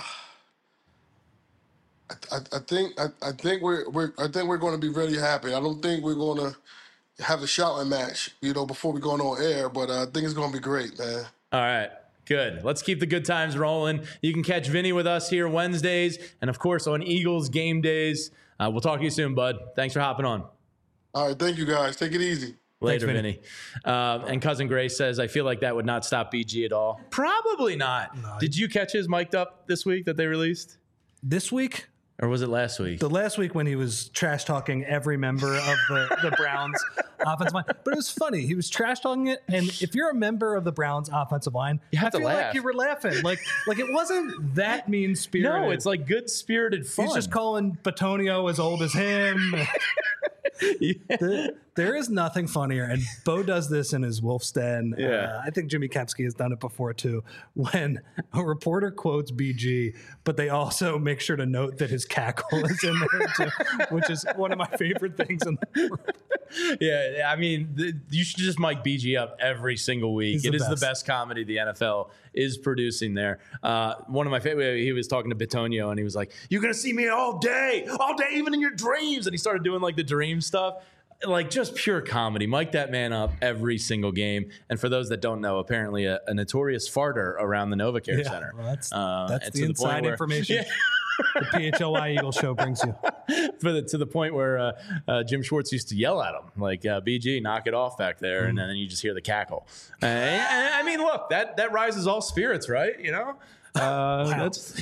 I, I think I, I think we're we're I think we're going to be really happy. I don't think we're going to have a shouting match, you know, before we go on air. But uh, I think it's going to be great, man. All right. Good. Let's keep the good times rolling. You can catch Vinny with us here Wednesdays and, of course, on Eagles game days. Uh, we'll talk to you soon, bud. Thanks for hopping on. All right. Thank you, guys. Take it easy. Later, Thanks, Vinny. Um, and Cousin Grace says, I feel like that would not stop B G at all. Probably not. No, Did you catch his mic'd up this week that they released? This week, Or was it last week? the last week when he was trash talking every member of the, the Browns offensive line. But it was funny. He was trash talking it. And if you're a member of the Browns offensive line, You have I to feel laugh. like you were laughing. Like, like it wasn't that mean spirited. No, it's like good-spirited fun. He's just calling Batonio as old as him. Yeah. The- there is nothing funnier, and Bo does this in his Wolf's Den. Yeah. Uh, I think Jimmy Kempski has done it before too. When a reporter quotes B G, but they also make sure to note that his cackle is in there too, which is one of my favorite things in the world. Yeah, I mean, the, you should just mic B G up every single week. He's It the is best. the best comedy the N F L is producing there. Uh, one of my favorite, he was talking to Bitonio, and he was like, you're going to see me all day, all day, even in your dreams. And he started doing like the dream stuff. Like just pure comedy. Mic that man up every single game. And for those that don't know, apparently a, a notorious farter around the NovaCare Yeah, Center. well, that's Uh, that's and the to point inside where- information Yeah. the P H L Y Eagle show brings you. For the, to the point where uh, uh, Jim Schwartz used to yell at him, like, uh, B G, knock it off back there. And then you just hear the cackle. Uh, and, and, I mean, look, that, that rises all spirits, right? You know? Uh, that's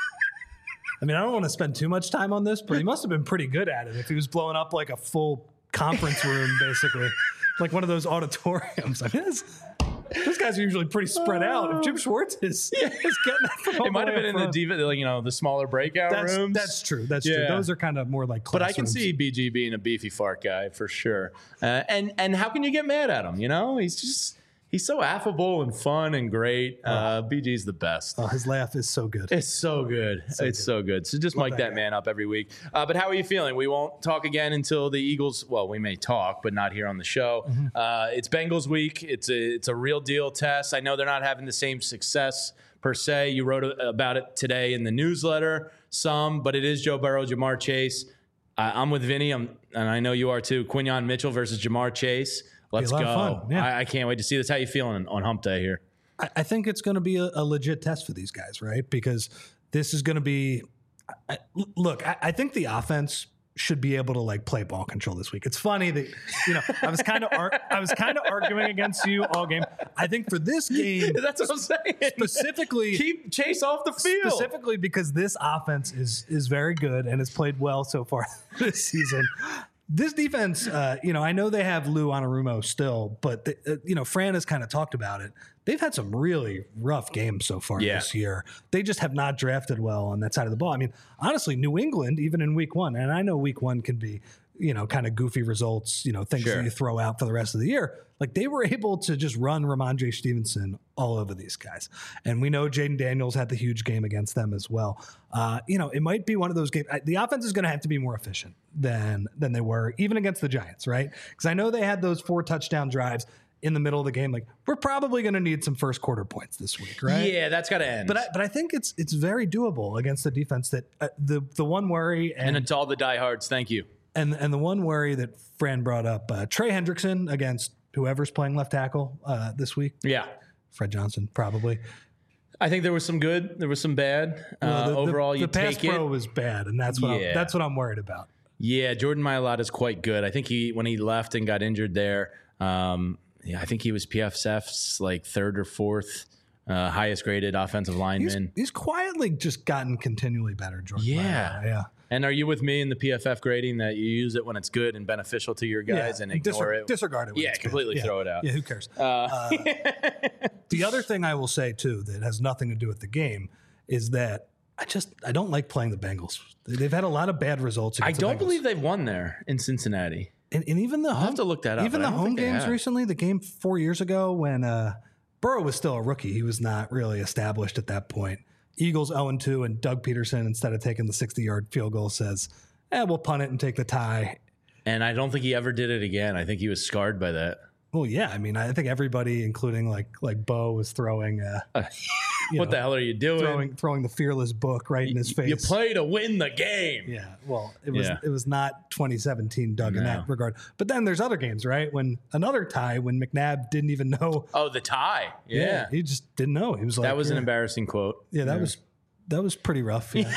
I mean, I don't want to spend too much time on this, but he must have been pretty good at it if he was blowing up like a full conference room, basically, like one of those auditoriums. I mean, this, those guys are usually pretty spread out. If Jim Schwartz is, is getting that from all it might the have way been in up the front. diva, like, you know, the smaller breakout That's, rooms. that's true. That's true. Yeah. Those are kind of more like But I can classrooms. see B G being a beefy fart guy for sure. Uh, and and how can you get mad at him? You know, he's just he's so affable and fun and great. Uh, B G's the best. Oh, his laugh is so good. It's so good. it's good. so good. So just mic that that guy. man up every week. Uh, but how are you feeling? We won't talk again until the Eagles. Well, we may talk, but not here on the show. Mm-hmm. Uh, it's Bengals week. It's a it's a real deal test. I know they're not having the same success per se. You wrote about it today in the newsletter. Some, but it is Joe Burrow, Jamar Chase. I, I'm with Vinny. I'm, and I know you are too. Quinyon Mitchell versus Jamar Chase. Let's a lot go. of fun, yeah. I, I can't wait to see this. How you feeling on Hump Day here? I, I think it's going to be a, a legit test for these guys, right? Because this is going to be. I, look, I, I think the offense should be able to like play ball control this week. It's funny that you know I was kind of ar- I was kind of arguing against you all game. I think for this game That's what I'm saying. specifically, Keep Chase off the field. specifically because this offense is is very good and has played well so far this season. This defense, uh, you know, I know they have Lou Anarumo still, but the, uh, you know, Fran has kind of talked about it. They've had some really rough games so far Yeah. this year. They just have not drafted well on that side of the ball. I mean, honestly, New England, even in week one, and I know week one can be, you know, kind of goofy results, you know, things Sure. that you throw out for the rest of the year. Like they were able to just run Ramondre Stevenson all over these guys. And we know Jaden Daniels had the huge game against them as well. Uh, you know, it might be one of those games. I- The offense is going to have to be more efficient than than they were, even against the Giants, right? Because I know they had those four touchdown drives in the middle of the game. Like we're probably going to need some first quarter points this week, right? Yeah, that's got to end. But I, but I think it's it's very doable against the defense. That uh, the the one worry and and it's all the diehards. Thank you. and and the one worry that Fran brought up, uh, Trey Hendrickson against whoever's playing left tackle uh, this week. Yeah. Fred Johnson, probably. I think there was some good. There was some bad. Uh, Well, the, the- overall, the, you pass take pro it. was bad, and that's what Yeah. I'm, that's what I'm worried about. Yeah, Jordan Mailata is quite good. I think he when he left and got injured there, um, yeah, I think he was P F F's like third or fourth uh, highest graded offensive He's, lineman. he's quietly just gotten continually better, Jordan. Yeah. Mailata. yeah. And are you with me in the P F F grading that you use it when it's good and beneficial to your guys yeah. and ignore Disre- it? Disregard it. when Yeah, it's good. completely Yeah. throw it out. Yeah, who cares? Uh, Uh, the other thing I will say too that has nothing to do with the game is that I just I don't like playing the Bengals. They've had a lot of bad results. I against the don't Bengals. believe they've won there in Cincinnati. And, and even the I'll home, have to look that up, Even but I the don't home think they games have. recently, the game four years ago when uh, Burrow was still a rookie, he was not really established at that point. Eagles oh and two, and Doug Peterson, instead of taking the sixty-yard field goal, says, "Eh, we'll punt it and take the tie." And I don't think he ever did it again. I think he was scarred by that. Well, yeah, I mean, I think everybody, including like like Bo, was throwing uh, you what know, the hell are you doing? throwing throwing the fearless book right in his face. You play to win the game. Yeah, well, it was Yeah. it was not twenty seventeen Doug in No. that regard. But then there's other games, right? When another tie, when McNabb didn't even know. Oh, the tie. Yeah. he just didn't know. He was like, that was yeah. an embarrassing quote. Yeah, that was that was pretty rough. Yeah,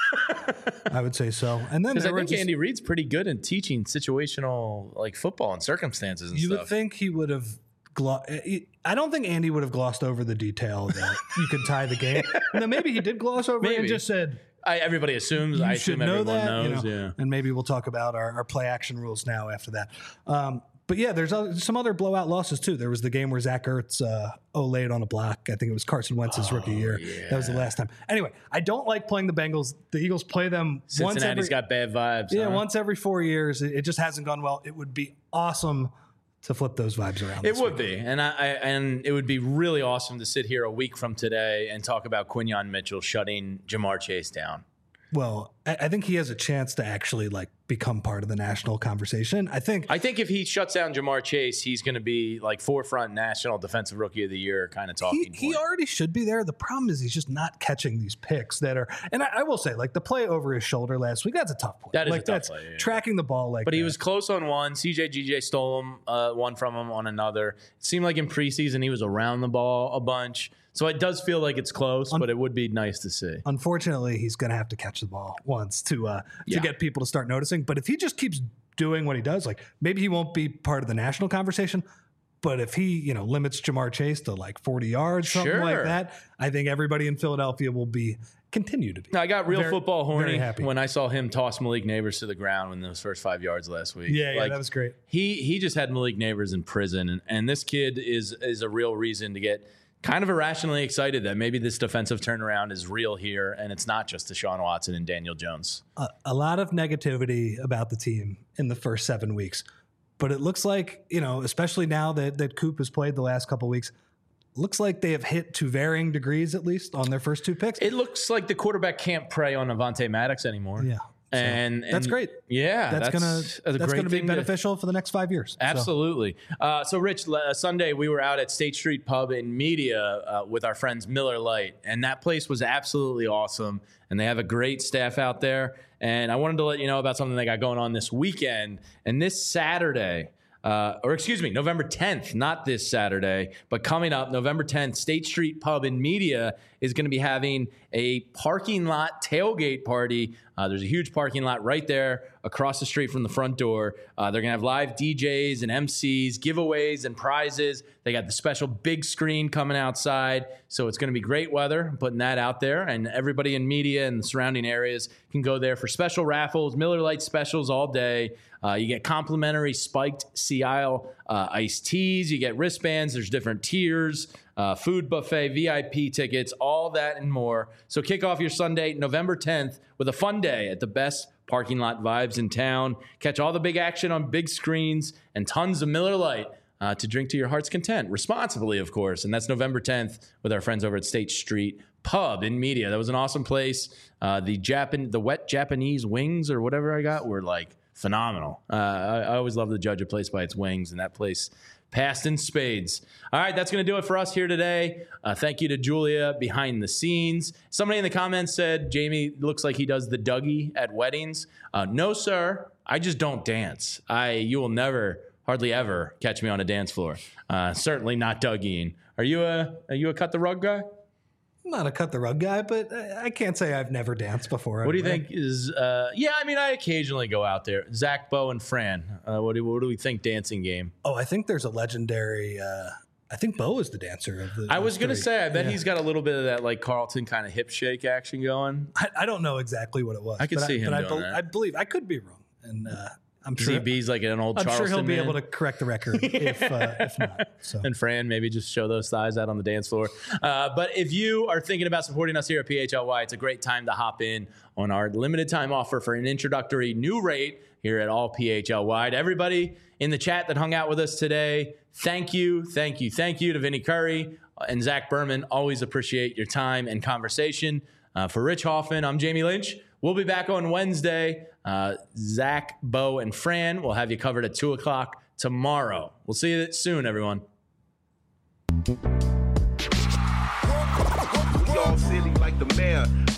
I, I would say so. And then Because there I were think just, Andy Reid's pretty good in teaching situational like football and circumstances and you stuff. would think he would have. Glo- I don't think Andy would have glossed over the detail that you could tie the game. And then maybe he did gloss over it Maybe. and just said, I, everybody assumes. you I should assume know everyone that. knows. you know? Yeah. And maybe we'll talk about our, our play action rules now after that. Um, but yeah, there's other, some other blowout losses too. There was the game where Zach Ertz uh, oh-laid on a block. I think it was Carson Wentz's Oh, rookie year. That was the last time. Anyway, I don't like playing the Bengals. The Eagles play them once Cincinnati's every got bad vibes. yeah, huh? once every four years. It, it just hasn't gone well. It would be awesome to flip those vibes around. It this would week. be, and I, I and it would be really awesome to sit here a week from today and talk about Quinyon Mitchell shutting Jamar Chase down. Well, I, I think he has a chance to actually like become part of the national conversation. I think I think if he shuts down Jamar Chase, he's going to be like forefront national defensive rookie of the year kind of he, talking he point. already should be there. The problem is he's just not catching these picks that are. And I, I will say, like the play over his shoulder last week, that's a tough play. That is like a tough that's play, yeah. tracking the ball like. But he that. was close on one. C J G J stole him uh, one from him on another. It seemed like in preseason he was around the ball a bunch. So it does feel like it's close, but it would be nice to see. Unfortunately, he's going to have to catch the ball once to uh, to Yeah. get people to start noticing. But if he just keeps doing what he does, like maybe he won't be part of the national conversation. But if he, you know, limits Jamar Chase to like forty yards, something like Sure. that, I think everybody in Philadelphia will be continue to be. I got real Very- football very horny happy. when I saw him toss Malik Neighbors to the ground in those first five yards last week. Yeah, yeah, Like, that was great. He he just had Malik Neighbors in prison, and, and this kid is is a real reason to get kind of irrationally excited that maybe this defensive turnaround is real here, and it's not just Deshaun Watson and Daniel Jones. A, a lot of negativity about the team in the first seven weeks, but it looks like, you know, especially now that that Coop has played the last couple of weeks, looks like they have hit to varying degrees at least on their first two picks. It looks like the quarterback can't prey on Avonte Maddox anymore. yeah. So And, that's and- great. Yeah, That's, gonna a that's great gonna be thing to- beneficial for the next five years. So, Absolutely. Uh, so, Rich, uh, Sunday we were out at State Street Pub in Media uh, with our friends Miller Lite, and that place was absolutely awesome. And they have a great staff out there. And I wanted to let you know about something they got going on this weekend. And this Saturday, uh, or excuse me, November tenth, not this Saturday, but coming up, November tenth, State Street Pub in Media is going to be having a parking lot tailgate party. Uh, there's a huge parking lot right there across the street from the front door. Uh, they're going to have live D Js and M Cs, giveaways and prizes. They got the special big screen coming outside. So it's going to be great weather. I'm putting that out there. And everybody in Media and the surrounding areas can go there for special raffles, Miller Lite specials all day. Uh, you get complimentary spiked Sea Isle uh, iced teas. You get wristbands. There's different tiers, uh, food buffet, V I P tickets, all that and more. So kick off your Sunday, November tenth, with a fun day at the best parking lot vibes in town. Catch all the big action on big screens and tons of Miller Lite uh, to drink to your heart's content, responsibly, of course. And that's November tenth with our friends over at State Street Pub in Media. That was an awesome place. Uh, the Japan, the wet Japanese wings or whatever I got were like phenomenal. Uh, I, I always love to judge a place by its wings, and that place passed in spades. All right, that's going to do it for us here today. Uh, thank you to Julia behind the scenes. Somebody in the comments said, Jamie looks like he does the Dougie at weddings. Uh, no, sir. I just don't dance. I You will never, hardly ever, catch me on a dance floor. Uh, certainly not Dougieing. Are you a, are you a cut the rug guy? I'm not a cut the rug guy, but I I can't say I've never danced before. What do you anyway. think is, uh, yeah, I mean, I occasionally go out there. Zach, Bo, and Fran, uh, what, do, what do we think dancing game? Oh, I think there's a legendary. Uh, I think Bo is the dancer of the. I was going to three. say, I bet Yeah. he's got a little bit of that like Carlton kind of hip shake action going. I, I don't know exactly what it was. I could but see him but doing I, bel- that. I believe I could be wrong, and uh, I'm sure. Z B's like an old I'm Charleston sure he'll be man. able to correct the record if uh, if not. So. And Fran, maybe just show those thighs out on the dance floor. Uh, but if you are thinking about supporting us here at P H L Y, it's a great time to hop in on our limited time offer for an introductory new rate here at all P H L Y. To everybody in the chat that hung out with us today, thank you, thank you, thank you to Vinny Curry and Zach Berman. Always appreciate your time and conversation. Uh, for Rich Hoffman, I'm Jamie Lynch. We'll be back on Wednesday. Uh, Zach, Bo, and Fran will have you covered at two o'clock tomorrow. We'll see you soon, everyone. Work, work, work. all city like the mayor.